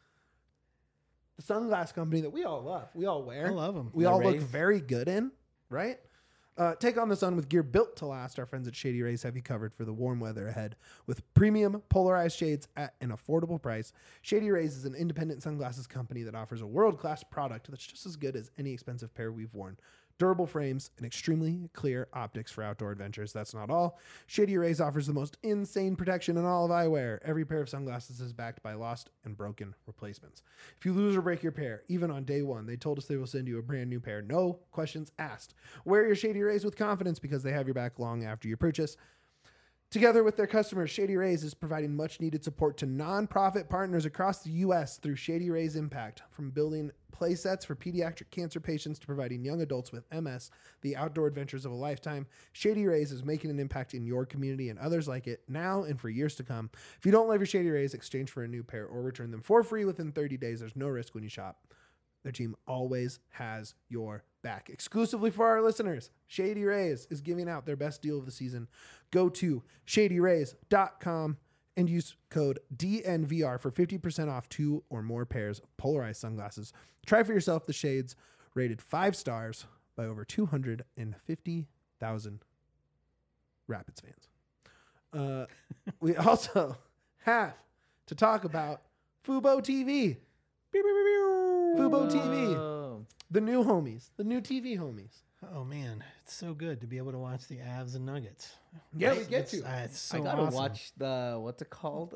A: The sunglass company that we all love. We all wear.
C: I love 'em.
A: We
B: The
A: all look
B: Rays.
A: very good in, right? Take on the sun with gear built to last. Our friends at Shady Rays have you covered for the warm weather ahead with premium polarized shades at an affordable price. Shady Rays is an independent sunglasses company that offers a world-class product that's just as good as any expensive pair we've worn. Durable frames and extremely clear optics for outdoor adventures. That's not all. Shady Rays offers the most insane protection in all of eyewear. Every pair of sunglasses is backed by lost and broken replacements. If you lose or break your pair, even on day one, they told us they will send you a brand new pair. No questions asked. Wear your Shady Rays with confidence because they have your back long after your purchase. Together with their customers, Shady Rays is providing much needed support to nonprofit partners across the U.S. through Shady Rays Impact. From building play sets for pediatric cancer patients to providing young adults with MS the outdoor adventures of a lifetime, Shady Rays is making an impact in your community and others like it now and for years to come. If you don't love your Shady Rays, exchange for a new pair or return them for free within 30 days. There's no risk when you shop. Their team always has your back. Exclusively for our listeners, Shady Rays is giving out their best deal of the season. Go to shadyrays.com and use code DNVR for 50% off 2 or more pairs of polarized sunglasses. Try for yourself the shades rated 5 stars by over 250,000 Rapids fans. We also have to talk about Fubo TV. Fubo TV.
B: Oh.
A: The new homies. The new TV homies.
C: Oh man, it's so good to be able to watch the Avs and Nuggets.
A: Yeah, we
C: It's-
A: get to.
C: It's so
B: I gotta
C: awesome.
B: watch the what's it called?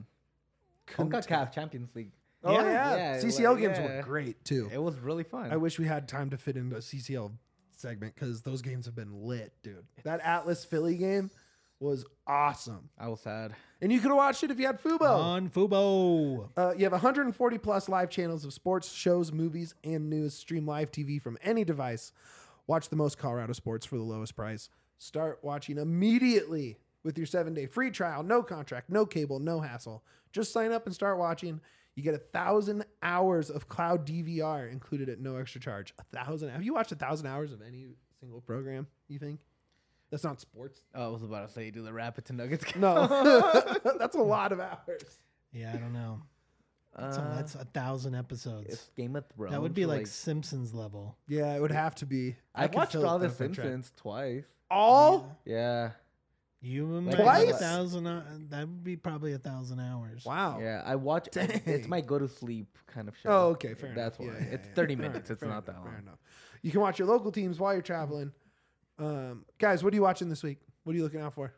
B: CONCACAF Champions League.
A: Oh,
C: Yeah.
A: yeah.
B: Yeah,
A: CCL
B: like,
A: games
B: yeah.
A: were great, too.
B: It was really fun.
A: I wish we had time to fit into a CCL segment because those games have been lit, dude. That Atlas Philly game, was awesome.
B: I was sad.
A: And you could have watched it if you had Fubo.
C: On Fubo.
A: You have 140 plus live channels of sports, shows, movies, and news. Stream live TV from any device. Watch the most Colorado sports for the lowest price. Start watching immediately with your 7-day free trial. No contract, no cable, no hassle. Just sign up and start watching. You get 1,000 hours of cloud DVR included at no extra charge. 1,000. Have you watched 1,000 hours of any single program, you think? That's not sports.
B: Oh, I was about to say, do the Rapids and Nuggets count?
A: No. That's a lot of hours.
C: Yeah, I don't know. That's 1,000 episodes.
B: It's Game of Thrones.
C: That would be
B: or,
C: like Simpsons level.
A: Yeah, it would have to be.
B: I've
A: could
B: watched
A: fill
B: all
A: it
B: the
A: up on track.
B: Simpsons twice.
A: All?
B: Yeah.
C: You
B: Like
A: Twice?
C: 1,000. That would be probably 1,000 hours.
A: Wow.
B: Yeah, I watch.
A: Dang.
B: It's my go to sleep kind of show.
A: Oh, okay, fair
B: That's
A: enough.
B: why.
A: Yeah, yeah,
B: It's
A: yeah.
B: 30
A: All
B: minutes.
A: right,
B: It's
A: fair
B: not that
A: enough,
B: long.
A: fair enough. You can watch your local teams while you're traveling. Guys, what are you watching this week? What are you looking out for?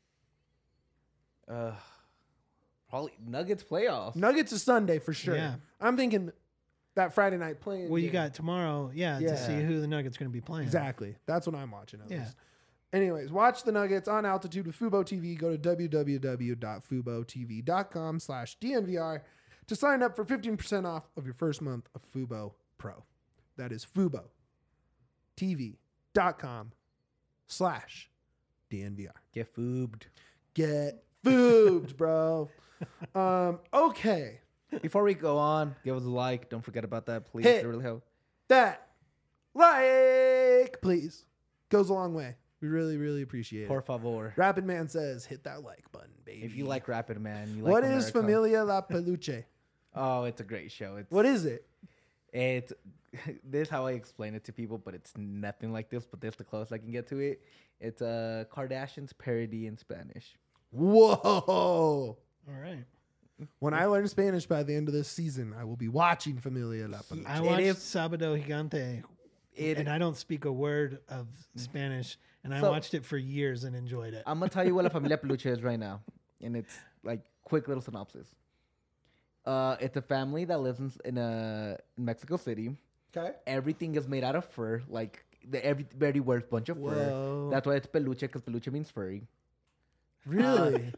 B: Probably Nuggets playoffs.
A: Nuggets is Sunday for sure.
C: Yeah.
A: I'm thinking that Friday night playing.
C: Well, you
A: game.
C: got tomorrow,
A: Yeah.
C: to see who the Nuggets going to be playing.
A: Exactly. That's what I'm watching. At
C: Yeah.
A: least. Anyways, watch the Nuggets on altitude with Fubo TV. Go to www.fubotv.com/DNVR to sign up for 15% off of your first month of Fubo Pro. That is FuboTV.com/DNVR.
B: Get foobed.
A: Get foobed, bro. Okay.
B: Before we go on, give us a like. Don't forget about that, please.
A: Hit.
B: It really helps.
A: That like, please. Goes a long way. We really, really appreciate
B: Por
A: it.
B: favor.
A: Rapid Man says, hit that like button, baby.
B: If you like Rapid Man, you like
A: What is
B: America.
A: Familia La Peluche?
B: Oh, it's a great show. It's
A: What is it?
B: It's this is how I explain it to people, but it's nothing like this. But this is the closest I can get to it. It's a Kardashians parody in Spanish.
A: Whoa.
C: All right.
A: When I learn Spanish by the end of this season, I will be watching Familia La Peluche.
C: I watched Sábado Gigante,
B: It,
C: and I don't speak a word of Spanish, and I
B: So-
C: watched it for years and enjoyed it.
B: I'm gonna tell you what La Familia Peluche is right now, and it's like quick little synopsis. It's a family that lives in Mexico City.
A: Okay.
B: Everything is made out of fur. Like everybody wears a bunch of
A: Whoa.
B: fur. That's why it's peluche, because peluche means furry.
A: Really?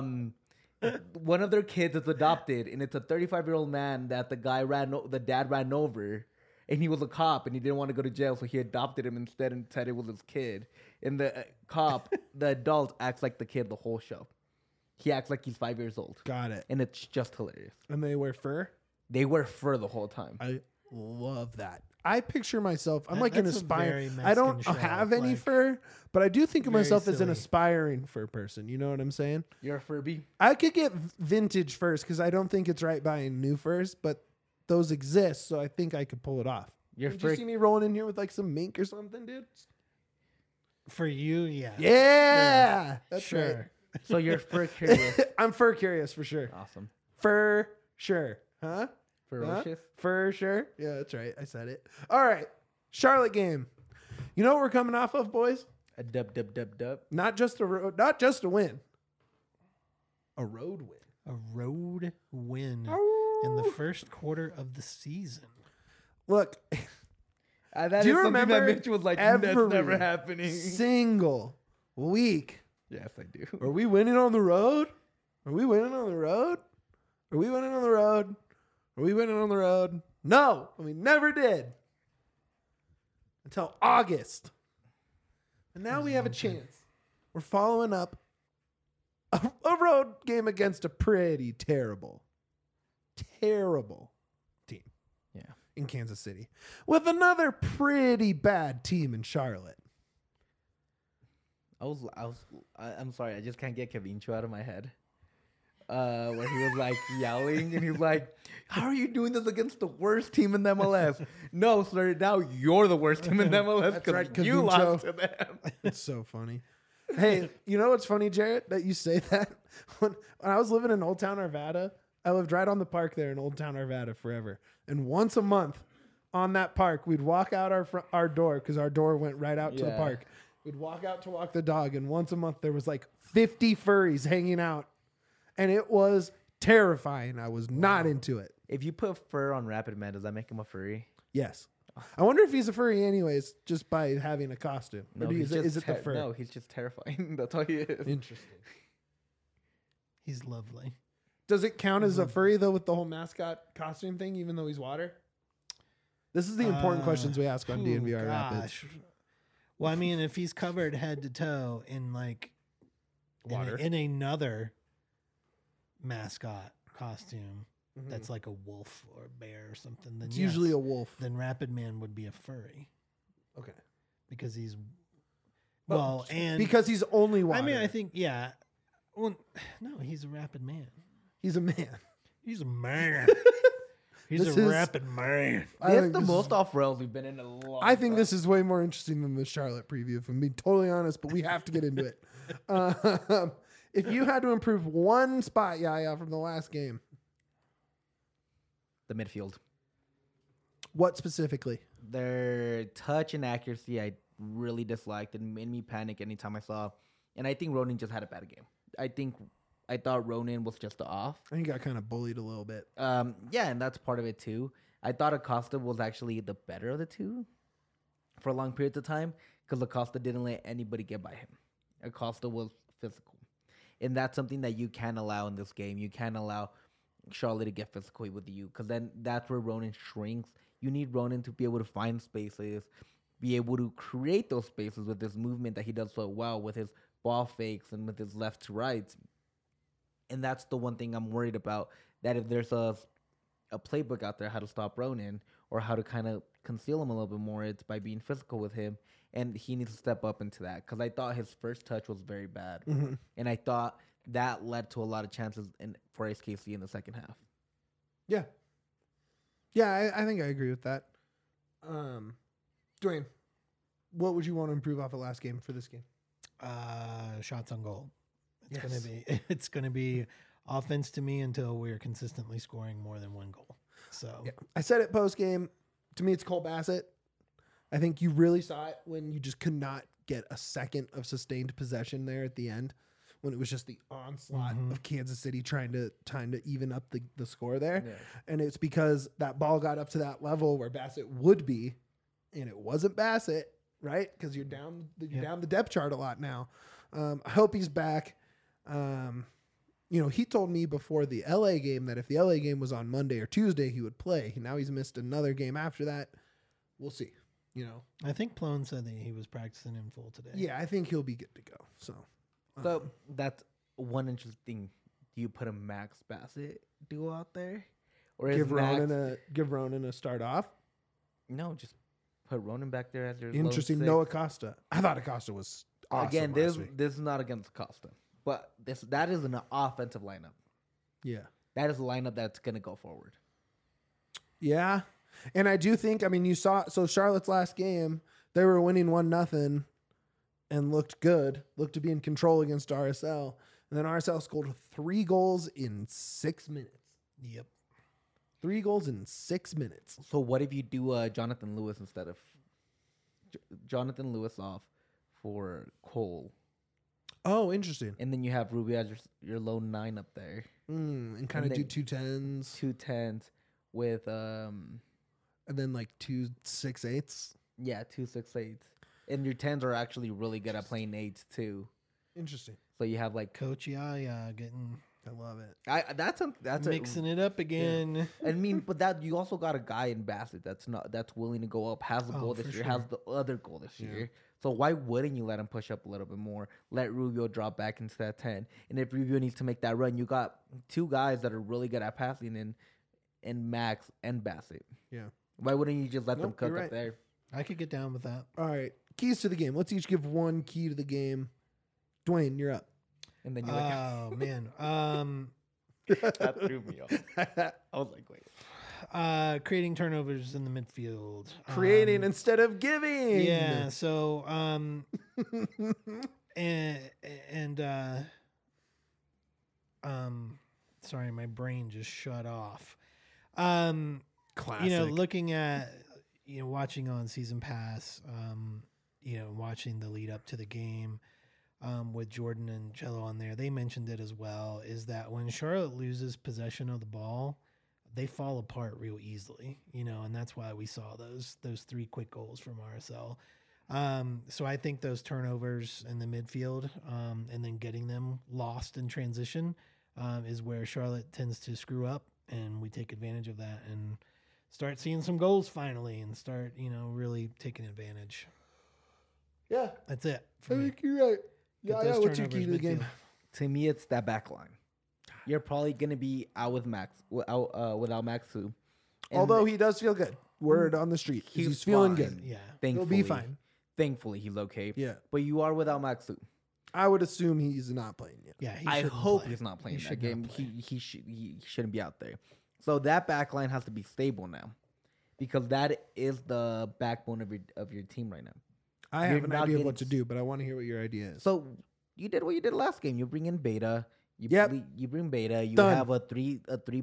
B: One of their kids is adopted, and it's a 35-year-old man that the dad ran over, and he was a cop, and he didn't want to go to jail, so he adopted him instead and said it was his kid. And the cop, the adult, acts like the kid the whole show. He acts like he's 5 years old,
A: Got it.
B: and it's just hilarious.
A: And they wear fur?
B: They wear fur the whole time.
A: I love that. I picture myself, I'm
C: That-
A: like an
C: that's a very
A: aspiring. I don't
C: Mexican show,
A: have any
C: like,
A: fur, but I do think of
C: very
A: myself as an
C: silly.
A: aspiring fur person. You know what I'm saying?
B: You're a Furby?
A: I could get vintage furs because I don't think it's right buying new furs, but those exist, so I think I could pull it off.
B: You're
A: Did you see me rolling in here with like some mink or something, dude?
C: For you, yeah.
A: Yeah, that's
C: Sure.
B: So you're fur curious.
A: right. I'm fur curious for sure.
B: Awesome.
A: For sure, huh?
B: Ferocious.
A: For sure. Yeah, that's right. I said it. All right, Charlotte game. You know what we're coming off of, boys?
B: A dub.
A: Not just a win. A road win.
C: A road win in the first quarter of the season.
A: Look,
B: That
A: Do you
B: is something that
A: remember
B: Mitch was like, that's
A: every
B: never happening.
A: single week.
B: Yes, I do.
A: Are we winning on the road? Are we winning on the road? Are we winning on the road? Are we winning on the road? No, we never did. Until August. And now we have a chance. We're following up a road game against a pretty terrible team.
B: Yeah.
A: In Kansas City. With another pretty bad team in Charlotte.
B: I'm sorry, I just can't get Kevincho out of my head. Where he was like yelling and he was like, how are you doing this against the worst team in the MLS? No, sir, now you're the worst team in the MLS
A: That's
B: because
A: right,
B: you
A: Kevincho.
B: lost to them.
A: It's so funny. Hey, you know what's funny, Jarrett, that you say that? When I was living in Old Town Arvada, I lived right on the park there in Old Town Arvada forever. And once a month on that park, we'd walk out our door because our door went right out to the
B: Yeah.
A: park. We'd walk out to walk the dog. And once a month, there was like 50 furries hanging out. And it was terrifying. I was not into it.
B: If you put fur on Rapid Man, does that make him a furry?
A: Yes. I wonder if he's a furry anyways, just by having a costume. Or is it the fur?
B: No, he's just terrifying. That's all he is.
A: Interesting.
C: He's lovely.
A: Does it count as a furry though with the whole mascot costume thing, even though he's water? This is the important questions we ask on DNVR Rapids.
C: Well, I mean, if he's covered head to toe in like
A: Water.
C: in another mascot costume that's like a wolf or a bear or something, then
A: It's usually a wolf.
C: Then Rapid Man would be a furry
A: Okay.
C: because he's
A: and because he's only water.
C: I mean, I think Well, no, he's a Rapid Man.
A: he's a man.
C: He's a man. He's
A: This
C: a
A: is-
C: Rapid Man.
A: I
B: That's
A: think
B: the
A: this
B: most
A: is-
B: off rails we've been in a long
A: I think
B: time.
A: this is way more interesting than the Charlotte preview, if I'm being totally honest, but we have to get into it. If you had to improve one spot, Yaya, from the last game,
B: the midfield.
A: what specifically?
B: Their touch and accuracy, I really disliked. It made me panic anytime I saw. And I think Ronan just had a bad game. I thought Ronan was just off.
A: I think he got kind of bullied a little bit.
B: Yeah, and that's part of it too. I thought Acosta was actually the better of the two for long periods of time because Acosta didn't let anybody get by him. Acosta was physical. And that's something that you can't allow in this game. You can't allow Charlotte to get physical with you because then that's where Ronan shrinks. You need Ronan to be able to find spaces, be able to create those spaces with this movement that he does so well with his ball fakes and with his left to rights. And that's the one thing I'm worried about, that if there's a playbook out there how to stop Ronan or how to kind of conceal him a little bit more, it's by being physical with him. And he needs to step up into that because I thought his first touch was very bad. And I thought that led to a lot of chances for SKC in the second half.
A: Yeah. Yeah, I think I agree with that. Dwayne, what would you want to improve off of last game for this game?
C: Shots on goal.
A: Yes.
C: It's gonna be offense to me until we're consistently scoring more than one goal. So
A: Yeah. I said it post game. To me, it's Cole Bassett. I think you really saw it when you just could not get a second of sustained possession there at the end, when it was just the onslaught of Kansas City trying to even up the score there.
B: Yeah.
A: And it's because that ball got up to that level where Bassett would be, and it wasn't Bassett, right? Because you're down the depth chart a lot now. I hope he's back. He told me before the LA game that if the LA game was on Monday or Tuesday, he would play. Now he's missed another game after that. We'll see.
C: I think Plone said that he was practicing in full today.
A: Yeah, I think he'll be good to go. So
B: That's one interesting thing. Do you put a Max Bassett duo out there? Or
A: give
B: Max,
A: Ronan a start off.
B: No, just put Ronan back there as your
A: Interesting.
B: lone
A: No
B: six.
A: Acosta. I thought Acosta was awesome
B: Again,
A: last week.
B: this is not against Costa, but that is an offensive lineup.
A: Yeah.
B: That is a lineup that's gonna go forward.
A: Yeah. And I do think, you saw, so Charlotte's last game, they were winning 1-0 and looked good, looked to be in control against RSL. And then RSL scored 3 goals in 6 minutes.
C: Yep.
A: 3 goals in 6 minutes.
B: So what if you do Jonathan Lewis instead of Jonathan Lewis off for Cole,
A: Oh, interesting.
B: and then you have Rubio as your lone 9 up there,
A: And kind of
B: And
A: do
B: then-
A: 2 10s
B: 2 10s with
A: and then like 2 6-8s.
B: 2 6-8s, and your 10s are actually really good at playing 8s too.
A: Interesting.
B: So you have like
C: Coach Yaya getting
A: I love it.
B: that's
C: mixing it up again.
B: but that you also got a guy in Bassett that's willing to go up, has the goal this
C: for
B: year,
C: sure.
B: has the other goal this year. So why wouldn't you let him push up a little bit more? Let Rubio drop back into that 10. And if Rubio needs to make that run, you got 2 guys that are really good at passing in Max and Bassett.
A: Yeah.
B: Why wouldn't you just let them
A: Nope,
B: cook
A: you're
B: up
A: right.
B: there?
C: I could get down with that.
A: All right. Keys to the game. Let's each give one key to the game. Dwayne, you're up.
B: And then you're like,
C: Oh man.
B: that threw me off. I was like, wait.
C: Creating turnovers in the midfield.
A: Creating instead of giving.
C: Yeah. So and sorry, my brain just shut off.
A: Classic.
C: Looking at watching on Season Pass, watching the lead up to the game, with Jordan and Cello on there, they mentioned it as well, is that when Charlotte loses possession of the ball, they fall apart real easily, and that's why we saw those 3 quick goals from RSL. So I think those turnovers in the midfield, and then getting them lost in transition, is where Charlotte tends to screw up, and we take advantage of that and start seeing some goals finally, and start really taking advantage.
A: Yeah,
C: That's it.
A: I think you're right.
C: Get
A: Yeah,
C: those
A: what's your key to the
C: turnovers
A: game?
C: midfield.
B: To me, it's that back line. You're probably gonna be out with Max, without Max Fu. And
A: Although he does feel good. Word on the street. He's feeling
B: fine.
A: good.
C: Yeah.
B: Thankfully,
A: He'll be fine.
B: Thankfully, he's okay.
A: Yeah.
B: But you are without Max Fu.
A: I would assume he's not playing yet.
C: Yeah.
B: I
C: shouldn't
B: hope
C: play.
B: he's not playing
C: He
B: that
C: should
B: game.
C: not play.
B: He shouldn't be out there. So that back line has to be stable now, because that is the backbone of your team right now.
A: I
B: You're
A: have an
B: not
A: idea of
B: getting
A: what to do, but I want to hear what your idea is.
B: So you did what you did last game. You bring in Beta.
A: Yep.
B: You bring Beta. You
A: Done.
B: have a three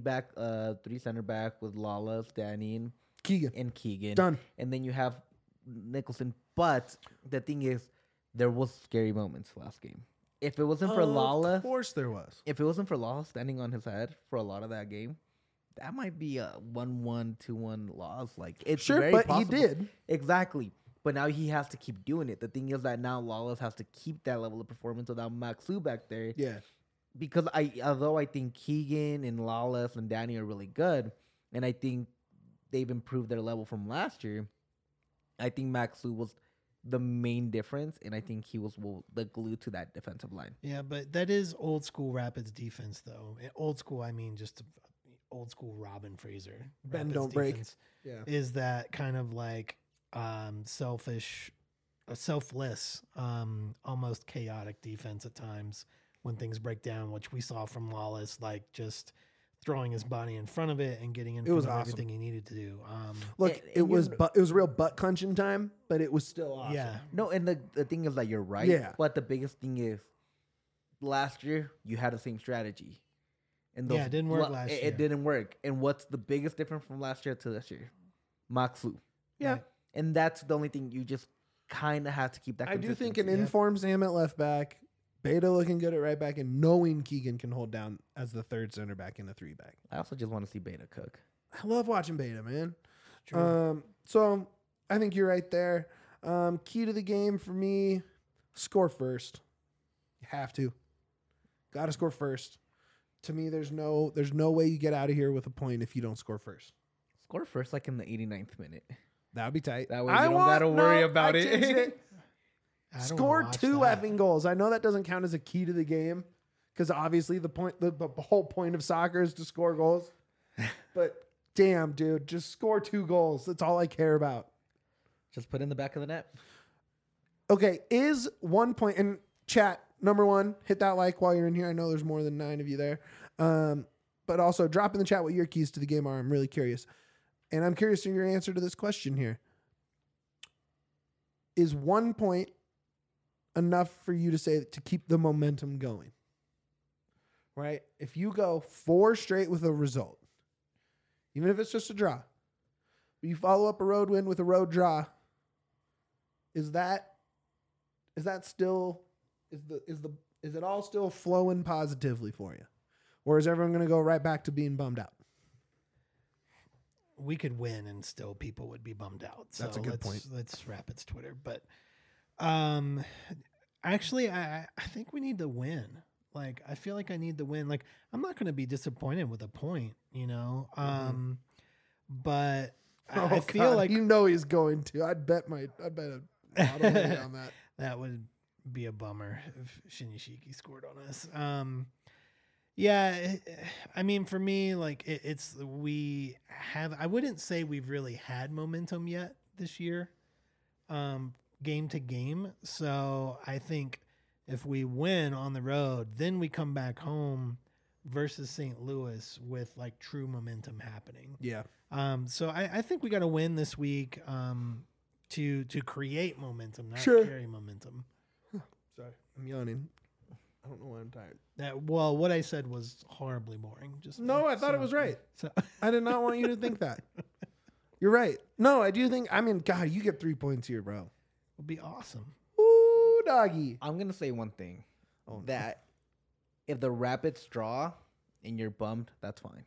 B: center back with Lawless, Danny,
A: Keegan.
B: and Keegan.
A: Done.
B: And then you have Nicholson. But the thing is, there was scary moments last game. If it wasn't for Lawless,
A: Of course there was.
B: if it wasn't for Lawless standing on his head for a lot of that game, that might be a 1-1, 2-1 loss. Like, it's
A: Sure,
B: very
A: but
B: possible.
A: he did.
B: Exactly. But now he has to keep doing it. The thing is that now Lawless has to keep that level of performance without Maxu back there.
A: Yeah.
B: Because although I think Keegan and Lawless and Danny are really good, and I think they've improved their level from last year, I think Maxu was the main difference, and I think he was the glue to that defensive line.
C: Yeah, but that is old school Rapids defense, though. Old school, I mean, just old school Robin Fraser.
A: Bend,
C: Rapids
A: don't break.
C: defense
A: Yeah.
C: Is that kind of like selfish, selfless, almost chaotic defense at times when things break down, which we saw from Lawless, like just throwing his body in front of it and getting in front
A: was
C: of
A: awesome.
C: everything he needed to do.
A: Look,
B: And
A: it was real butt clenching time, but it was still awesome.
C: Yeah.
B: No, and the thing is that you're right.
A: Yeah.
B: But the biggest thing is, last year you had the same strategy, and
C: Yeah, it didn't work last
B: it,
C: year.
B: It didn't work. And what's the biggest difference from last year to this year? Maxu.
A: Yeah.
C: Right.
B: And that's the only thing you just kind of have to keep that.
A: I do think an
B: consistency.
A: informed Sam at left back, Beta looking good at right back, and knowing Keegan can hold down as the third center back in a 3-back.
B: I also just want to see Beta cook.
A: I love watching Beta, man.
C: True.
A: So I think you're right there. Key to the game for me, score first. You have to. Got to score first. To me, there's no way you get out of here with a point if you don't score first.
B: Score first, like in the 89th minute.
A: That would be tight.
B: That way you don't gotta worry about it.
A: changed
C: I don't
A: Score
C: watch
A: 2
C: that.
A: effing goals. I know that doesn't count as a key to the game because obviously the whole point of soccer is to score goals. But damn, dude, just score 2 goals. That's all I care about.
B: Just put in the back of the net.
A: Okay, is 1 point in chat number 1? Hit that like while you're in here. I know there's more than 9 of you there. But also drop in the chat what your keys to the game are. I'm really curious, and I'm curious to your answer to this question here. Is 1 point enough for you to say to keep the momentum going? Right? If you go 4 straight with a result, even if it's just a draw, but you follow up a road win with a road draw, is it all still flowing positively for you? Or is everyone going to go right back to being bummed out?
C: We could win and still people would be bummed out. So
A: That's a good point.
C: Let's Rapids Twitter. But actually, I think we need to win. Like, I feel like I need to win. Like, I'm not going to be disappointed with a point, you know? But I feel like
A: you know he's going to. I'd bet a lot of money on that.
C: that would be a bummer if Shinishiki scored on us. Yeah, I mean, for me, like I wouldn't say we've really had momentum yet this year, game to game. So I think if we win on the road, then we come back home versus St. Louis with like true momentum happening.
A: Yeah.
C: So I think we got to win this week to create momentum, not
A: Sure.
C: carry momentum.
A: Sorry, I'm yawning. I don't know why I'm tired.
C: Well, what I said was horribly boring.
A: No, I thought it was right.
C: So
A: I did not want you to think that. You're right. No, I do think. I mean, God, you get 3 points here, bro.
C: would be awesome.
A: Ooh, doggy.
B: I'm gonna say one thing.
A: Oh, no.
B: That if the Rapids draw and you're bummed, that's fine.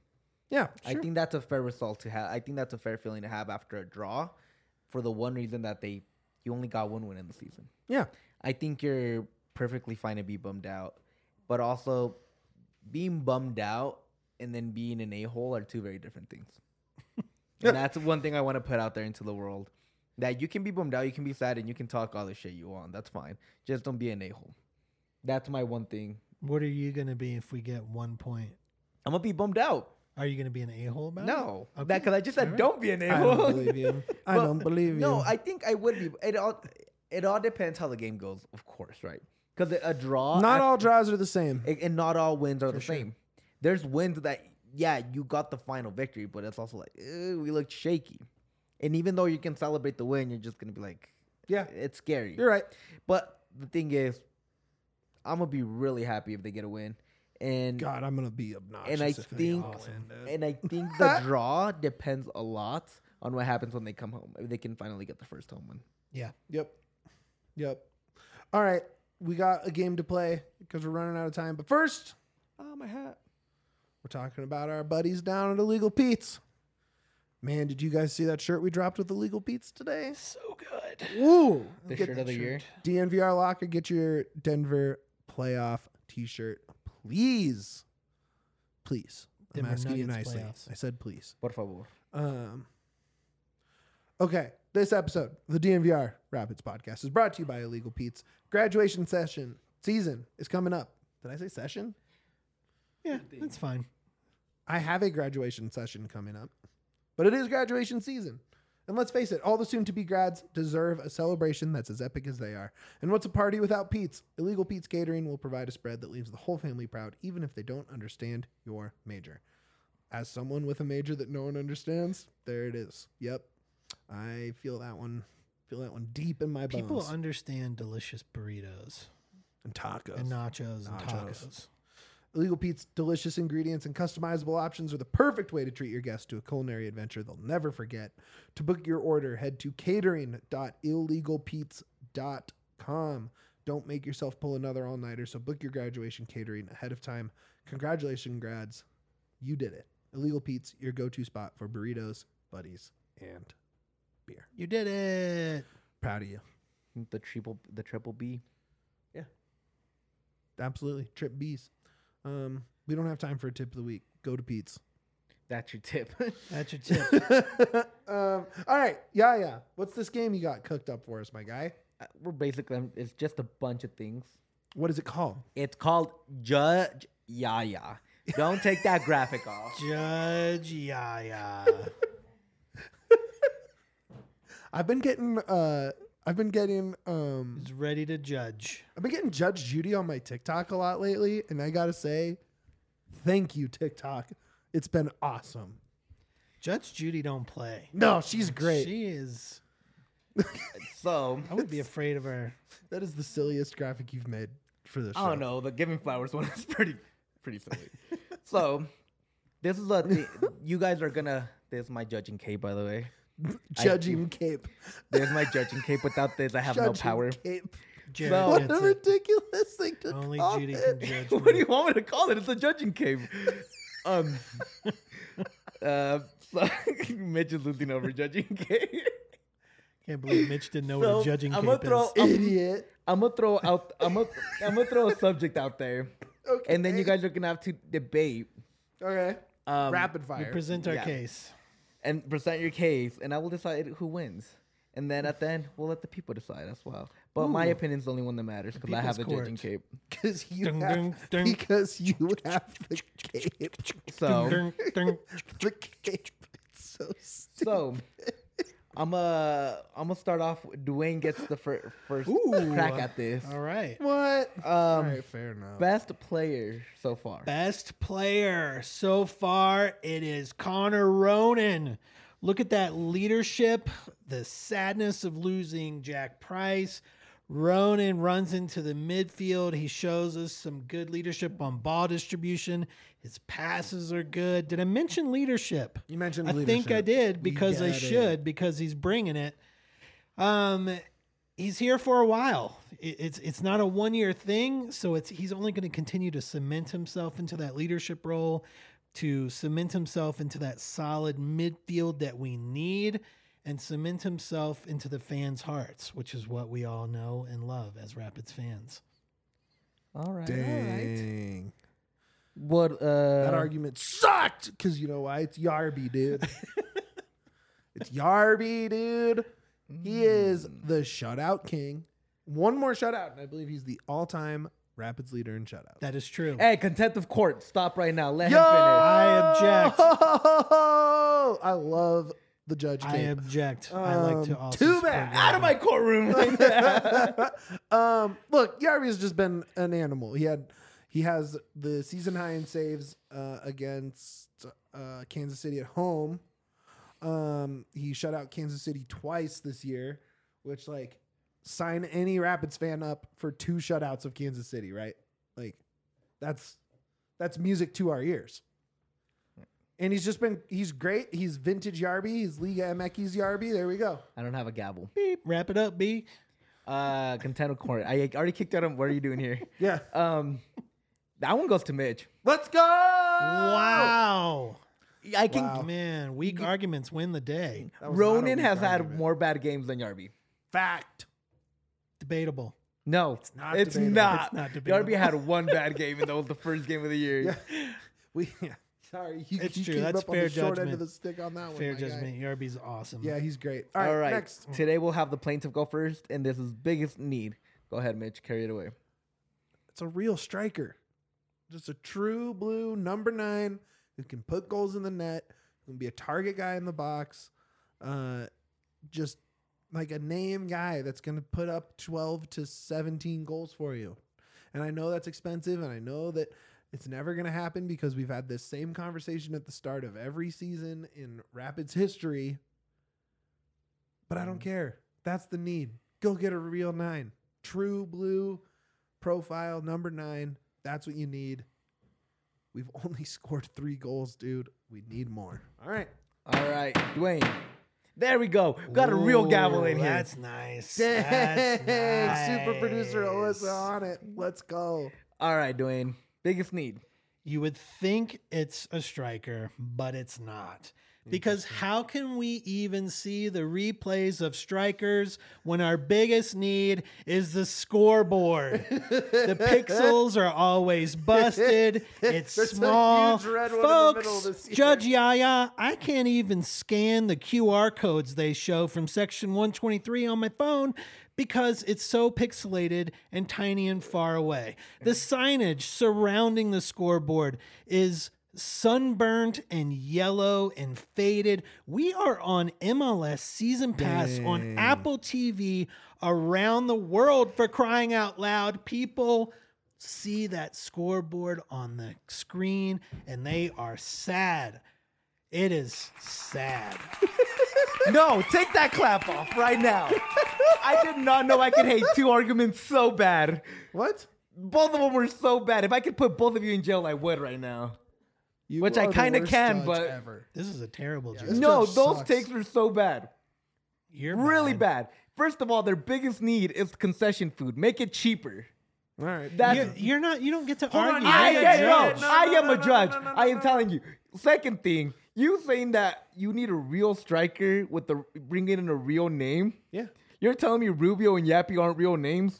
A: Yeah,
B: I think that's a fair result to have. I think that's a fair feeling to have after a draw, for the one reason that you only got one win in the season.
A: Yeah.
B: I think you're perfectly fine to be bummed out, but also being bummed out and then being an a-hole are two very different things. And that's one thing I want to put out there into the world. That you can be bummed out, you can be sad, and you can talk all the shit you want. That's fine. Just don't be an a-hole. That's my one thing.
C: What are you going to be if we get 1 point?
B: I'm going to be bummed out.
C: Are you going to be an a-hole about
B: No.
C: it? Okay.
B: Because I just said
C: Alright.
B: don't be an
A: I
B: a-hole.
A: don't believe you. I
B: But-
A: don't believe you.
B: No, I think I would be. It all depends how the game goes, of course, right? Because a draw...
A: not all draws are the same.
B: And not all wins are the
A: sure.
B: same. There's wins that, yeah, you got the final victory, but it's also like, we looked shaky. And even though you can celebrate the win, you're just going to be like,
A: Yeah,
B: it's scary.
A: you're right.
B: But the thing is, I'm going to be really happy if they get a win. And
A: God, I'm gonna be obnoxious.
B: And I
A: if they
B: think-
A: all win, dude.
B: and I think the draw depends a lot on what happens when they come home. If they can finally get the first home win.
C: Yeah.
A: Yep. All right, we got a game to play because we're running out of time. But first,
B: Oh, my hat.
A: we're talking about our buddies down at Illegal Pete's. Man, did you guys see that shirt we dropped with Illegal Pete's today?
C: So good.
A: Woo!
B: The
A: Get
B: shirt of the year.
A: DNVR Locker, get your Denver playoff T-shirt, please. Please. I'm
C: Denver
A: asking you
C: Nuggets
A: nicely.
C: playoffs.
A: I said please.
B: Por favor.
A: Okay, this episode of the DNVR Rapids podcast is brought to you by Illegal Pete's. Graduation season is coming up. Did I say session?
C: Yeah, that's fine.
A: I have a graduation session coming up, but it is graduation season. And let's face it, all the soon-to-be grads deserve a celebration that's as epic as they are. And what's a party without Pete's? Illegal Pete's Catering will provide a spread that leaves the whole family proud, even if they don't understand your major. As someone with a major that no one understands, there it is. Yep, I feel that one. Feel that one deep in my bones.
C: People understand delicious burritos
A: and tacos.
C: and nachos and
A: Nachos.
C: tacos.
A: Illegal Pete's delicious ingredients and customizable options are the perfect way to treat your guests to a culinary adventure they'll never forget. To book your order, head to catering.illegalpete's.com. Don't make yourself pull another all-nighter, so book your graduation catering ahead of time. Congratulations, grads. You did it. Illegal Pete's, your go-to spot for burritos, buddies, and beer.
C: You did it.
A: Proud of you.
B: The triple B.
A: Absolutely. Trip B's. We don't have time for a tip of the week. Go to Pete's.
B: That's your tip.
C: That's your tip.
A: All right. Yeah. What's this game you got cooked up for us, my guy?
B: We're basically, it's just a bunch of things.
A: What is it called?
B: It's called Judge Yaya. Don't take that graphic off.
C: Judge Yaya.
A: I've been getting
C: Is ready to judge.
A: Judge Judy on my TikTok a lot lately, and I gotta say, thank you, TikTok. It's been awesome.
C: Judge Judy don't play.
A: No, she's great.
C: She is.
B: So,
C: I would be afraid of her.
A: That is the silliest graphic you've made for this show.
B: I don't know. The Giving Flowers one is pretty silly. So, this is a thing. You guys are gonna. This is my judging cape, by the way.
A: Judging cape.
B: There's my judging cape. Without this, I have no
A: Judging
B: power.
A: cape.
C: Jared
B: So-
A: What
C: gets
A: a
C: it.
A: ridiculous thing to
C: Only
A: call
C: Judy
A: it.
C: can judge
B: What do
C: me.
B: you want me to call it? It's a judging cape. So Mitch is losing over judging cape.
C: Can't believe Mitch didn't know what
B: So,
C: a judging
B: I'm
C: cape
B: gonna
C: is.
A: Idiot.
B: I'm gonna throw out. I'm gonna throw a subject out there,
A: Okay.
B: and then you guys are gonna have to debate.
A: Okay. Rapid
C: We
A: fire.
C: present our
B: Yeah.
C: case.
B: And present your case, and I will decide who wins. And then at the end, we'll let the people decide as well. But my
C: Ooh.
B: opinion's the only one that matters because I have the
C: people's
B: judging cape.
A: Because you
C: Dun,
A: have
C: dun, dun.
A: because you have the cape.
B: So,
C: Dun, dun.
A: The cape. It's so stupid.
B: so I'm gonna start off. Dwayne gets the first
C: Ooh.
B: crack at this.
C: All right.
A: What? All
B: Um,
A: right, fair enough.
B: best player so far.
C: Best player so far, it is Connor Ronan. Look at that leadership, the sadness of losing Jack Price. Ronan runs into the midfield. He shows us some good leadership on ball distribution. His passes are good. Did I mention leadership?
A: You mentioned
C: I think I
A: leadership.
C: did because I
A: get it.
C: should, because he's bringing it. He's here for a while. It's not a 1 year thing, so he's only going to continue to cement himself into that leadership role. to cement himself into that solid midfield that we need and cement himself into the fans' hearts, which is what we all know and love as Rapids fans.
B: All right.
A: Dang.
B: What
A: That argument sucked because you know why? It's Yarby, dude. It's Yarby, dude. He is the shutout king. One more shutout, and I believe he's the all-time Rapids leader in shutouts.
C: That is true.
B: Hey, contempt of court. Stop right now. Let
A: Yo!
B: him finish.
C: I object.
A: I love the Judge
C: I
A: King.
C: object. I like to also
A: too
C: support
A: bad.
C: Yarby.
B: Out of my courtroom.
A: Look, Yarby's just been an animal. He has the season high in saves against Kansas City at home. He shut out Kansas City twice this year, which like sign any Rapids fan up for 2 shutouts of Kansas City, right? Like that's music to our ears. And he's great. He's vintage Yarby. He's Liga MX Yarby. There we go.
B: I don't have a gavel.
C: Beep. Wrap it up, B.
B: Contempt of court. I already kicked out him. What are you doing here?
A: Yeah.
B: That one goes to Mitch.
A: Let's go.
C: Wow.
B: I can.
A: Wow.
C: Man, weak arguments win the day.
A: That was not a
B: Ronan
A: weak
B: has had
A: argument.
B: more bad games than Yarby.
A: Fact.
C: Debatable.
B: No, it's
A: not
B: It's
A: debatable.
B: not.
C: It's not debatable.
B: Yarby had one bad game, and that was the first game of the year.
A: Yeah. Sorry,
C: It's
A: you
C: true.
A: came
C: That's
A: up on
C: fair
A: the short end
C: judgment.
A: of the stick on that one.
C: Fair
A: my guy.
C: judgment. Yarby's awesome.
A: Yeah, he's great.
B: All right.
A: Next.
B: Today we'll have the plaintiff go first, and this is biggest need. Go ahead, Mitch. Carry it away.
A: It's a real striker. Just a true blue number 9 who can put goals in the net, who can be a target guy in the box. Just like a name guy that's going to put up 12 to 17 goals for you. And I know that's expensive, and I know that it's never going to happen because we've had this same conversation at the start of every season in Rapids history. But I don't care. That's the need. Go get a real 9. True blue profile number 9. That's what you need. We've only scored 3 goals, dude. We need more. All right.
B: All right, Dwayne. There we go. Got a real gavel in
C: Ooh,
B: here.
C: That's nice.
A: Dang,
C: That's
A: super producer
C: nice.
A: Alyssa on it. Let's go.
B: All right, Dwayne. Biggest need.
C: You would think it's a striker, but it's not. Because how can we even see the replays of strikers when our biggest need is the scoreboard? The pixels are always busted. It's
A: There's a
C: small.
A: huge red one in the middle
C: Folks,
A: this year.
C: Judge Yaya, I can't even scan the QR codes they show from section 123 on my phone because it's so pixelated and tiny and far away. The signage surrounding the scoreboard is sunburnt and yellow and faded. We are on MLS Season Pass on Apple TV around the world, for crying out loud. People see that scoreboard on the screen and they are sad. It is sad.
B: No, take that clap off right now. I did not know I could hate 2 arguments so bad.
A: What?
B: Both of them were so bad. If I could put both of you in jail, I would right now.
A: You
B: Which I
A: are the
B: kinda
A: worst
B: can,
A: judge
B: but-
A: ever.
C: This is a terrible joke.
A: This
B: No,
A: judge
B: those
A: sucks.
B: takes were so bad.
C: You're
B: Really bad. First of all, their biggest need is concession food. Make it cheaper.
A: All right.
B: That's
C: You're not. You don't get to
A: Hold on,
C: argue.
A: you
B: I
C: You're
A: get
C: the
A: it.
C: judge.
A: No,
B: I
A: no,
B: am
A: no,
B: a
A: no,
B: judge.
A: no, no,
B: I am
A: no.
B: telling you. Second thing, you saying that you need a real striker with the bringing in a real name.
A: Yeah.
B: You're telling me Rubio and Yappy aren't real names?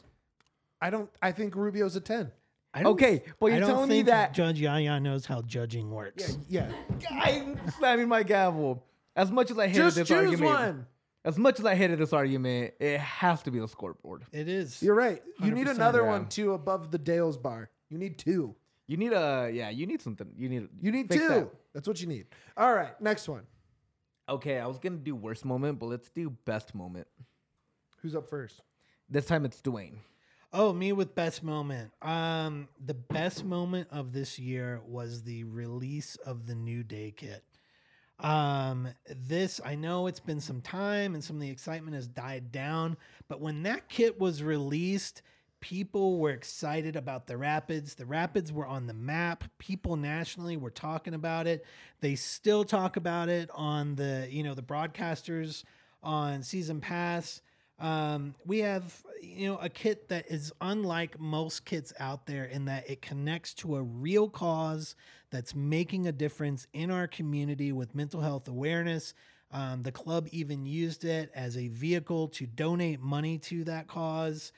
A: I think Rubio's a 10.
C: I don't-
B: Okay, but
C: I
B: you're
C: don't
B: telling me
C: think
B: that
C: Judge Yaya knows how judging works.
A: Yeah.
B: I'm slamming my gavel. As much as I hated
A: Just
B: this
A: choose
B: argument,
A: one.
B: as much as I hated this argument, it has to be the scoreboard.
C: It is.
A: You're right. You need
C: 100%.
A: another
B: Yeah.
A: one too above the Dale's bar. You need 2.
B: You need you need something. You need
A: Fix
B: 2.
A: that. That's what you need. All right, next one.
B: Okay, I was gonna do worst moment, but let's do best moment.
A: Who's up first?
B: This time it's Dwayne.
C: Oh, me with best moment. The best moment of this year was the release of the New Day kit. This, I know it's been some time and some of the excitement has died down, but when that kit was released, people were excited about the Rapids. The Rapids were on the map. People nationally were talking about it. They still talk about it on the, the broadcasters on Season Pass. We have, a kit that is unlike most kits out there in that it connects to a real cause that's making a difference in our community with mental health awareness. The club even used it as a vehicle to donate money to that cause.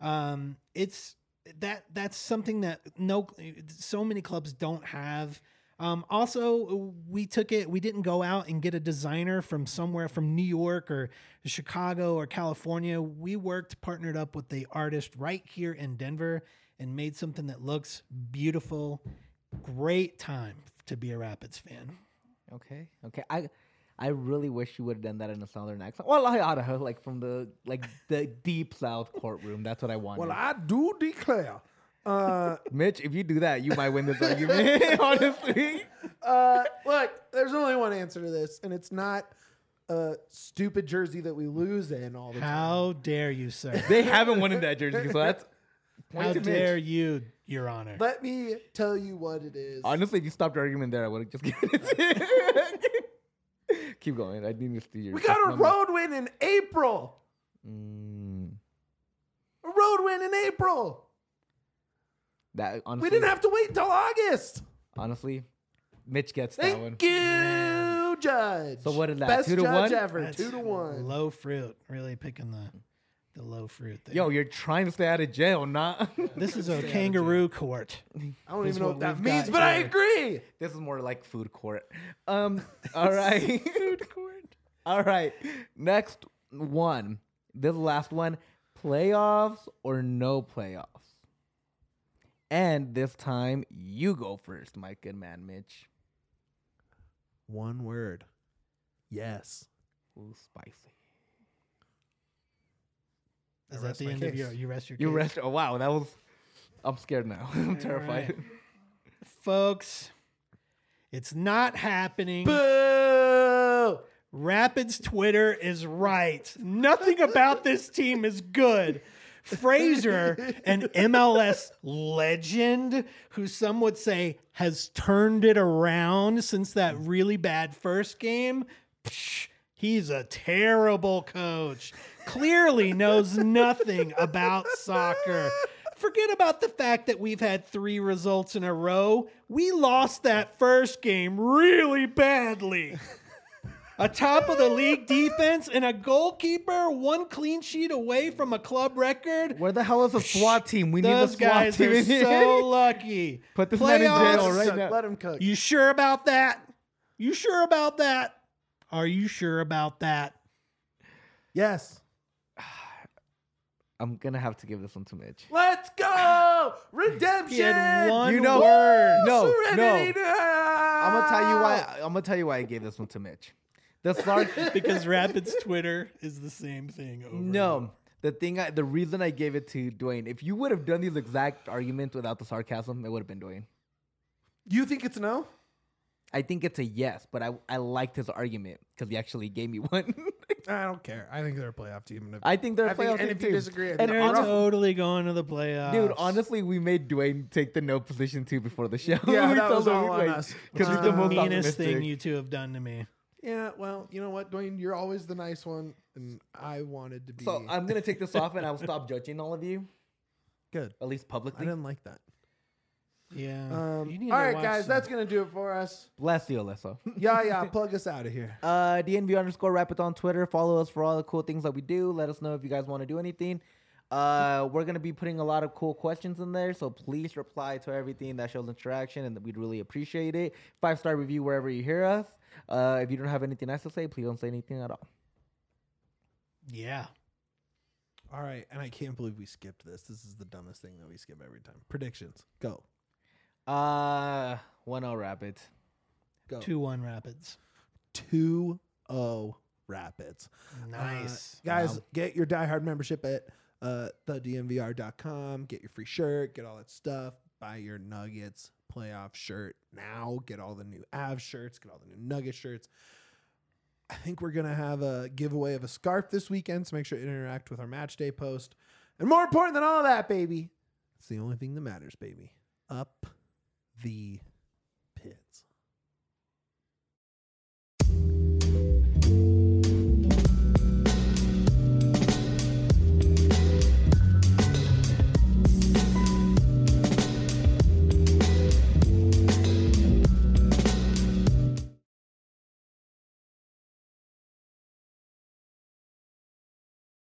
C: That's something that so many clubs don't have. Also, we didn't go out and get a designer from somewhere from New York or Chicago or California. We partnered up with the artist right here in Denver and made something that looks beautiful. Great time to be a Rapids fan.
B: Okay. I really wish you would have done that in a southern accent. Well, I oughta have, like from the deep south courtroom. That's what I wanted.
A: Well, I do declare.
B: Mitch, if you do that, you might win this argument. Honestly.
A: Look, there's only one answer to this, and it's not a stupid jersey that we lose in all the time.
C: How dare you, sir?
B: They haven't won in that jersey, so that's point
C: How
B: to
C: dare
B: Mitch.
C: you, Your Honor?
A: Let me tell you what it is.
B: Honestly, if you stopped the argument there, I would have just given it to you. Keep going. I need to see your.
A: We got a road win in April. A road win in April.
B: That honestly,
A: We didn't have to wait until August.
B: Honestly, Mitch gets that one.
A: Thank you, Judge.
B: So what is that,
A: Best
B: 2 to
A: judge
B: 1?
A: ever.
C: That's
A: 2-1.
C: Low fruit. Really picking the low fruit there.
B: Yo, you're trying to stay out of jail, not.
C: This is a kangaroo court.
A: I don't
C: is
A: even know
C: what
A: what that
C: we've
A: means,
C: got
A: but I
C: here.
A: agree.
B: This is more like food court. All right. Food court. All right. Next one. This last one. Playoffs or no playoffs? And this time, you go first, my good man, Mitch.
A: One word. Yes.
B: Ooh, spicy.
C: Is
A: I
C: that
A: rest
C: the
A: my
C: end of
A: case.
C: you rest your
B: You
C: case?
B: rest. Oh, wow. That was. I'm scared now. I'm terrified.
C: right. Folks, it's not happening.
A: Boo!
C: Rapids Twitter is right. Nothing about this team is good. Fraser, an MLS legend who some would say has turned it around since that really bad first game, he's a terrible coach. Clearly knows nothing about soccer. Forget about the fact that we've had 3 results in a row. We lost that first game really badly. A top of the league defense and a goalkeeper, 1 clean sheet away from a club record.
B: Where the hell is the SWAT team? We need a
C: Those
B: SWAT
C: guys
B: team
C: are
B: in here.
C: so lucky.
B: Put this man in jail
C: Playoffs?
B: right
A: Cook,
B: now.
A: let him cook.
C: You sure about that? You sure about that? Are you sure about that?
A: Yes.
B: I'm going to have to give this one to Mitch.
A: Let's go! Redemption!
C: He had one
B: You know-
C: word.
B: No,
A: Serenity!
B: I'm going to tell you why. I'm going to tell you why I gave this one to Mitch. The Sark.
C: Because Rapids Twitter is the same thing over and over.
B: No. The reason I gave it to Dwayne, if you would have done these exact arguments without the sarcasm, it would have been Dwayne.
A: You think it's no?
B: I think it's a yes, but I liked his argument because he actually gave me one.
A: I don't care. I think they're a playoff team. And
B: I think they're a
A: I think-
B: playoff
A: and
B: team
A: if you
B: too.
A: disagree, I
B: And
A: think
C: They're
B: honestly,
C: totally going to the playoffs.
B: dude, honestly, we made Dwayne take the no position too before the show.
A: Yeah,
B: We
A: that
B: told
A: was
B: him,
A: all on
B: like,
A: us.
B: Because he's
C: It's
B: the
C: the
B: most
C: meanest thing
B: optimistic.
C: you two have done to me.
A: Yeah, well, you know what, Dwayne? You're always the nice one, and I wanted to be.
B: So I'm gonna take this off, and I'll stop judging all of you,
A: good.
B: at least
A: I
B: publicly.
A: didn't like that.
C: Yeah. You need
A: All
C: to
A: right,
C: watch
A: guys,
C: some-
A: that's going to do it for us.
B: Bless you, Alyssa.
A: Yeah, plug us out of here.
B: DNV_Rapids on Twitter. Follow us for all the cool things that we do. Let us know if you guys want to do anything. We're going to be putting a lot of cool questions in there, so please reply to everything that shows interaction, and we'd really appreciate it. 5-star review wherever you hear us. If you don't have anything nice to say, please don't say anything at all.
C: Yeah.
A: All right, and I can't believe we skipped this. This is the dumbest thing that we skip every time. Predictions. Go.
B: 1-0 Rapids.
A: Go.
C: 2-1 Rapids.
A: 2-0 Rapids.
C: Nice.
A: Guys,
B: Wow.
A: get your diehard membership at thedmvr.com. Get your free shirt. Get all that stuff. Buy your Nuggets playoff shirt now. Get all the new Avs shirts. Get all the new Nugget shirts. I think we're going to have a giveaway of a scarf this weekend, so make sure to interact with our match day post. And more important than all that, baby, it's the only thing that matters, baby. Up the pits.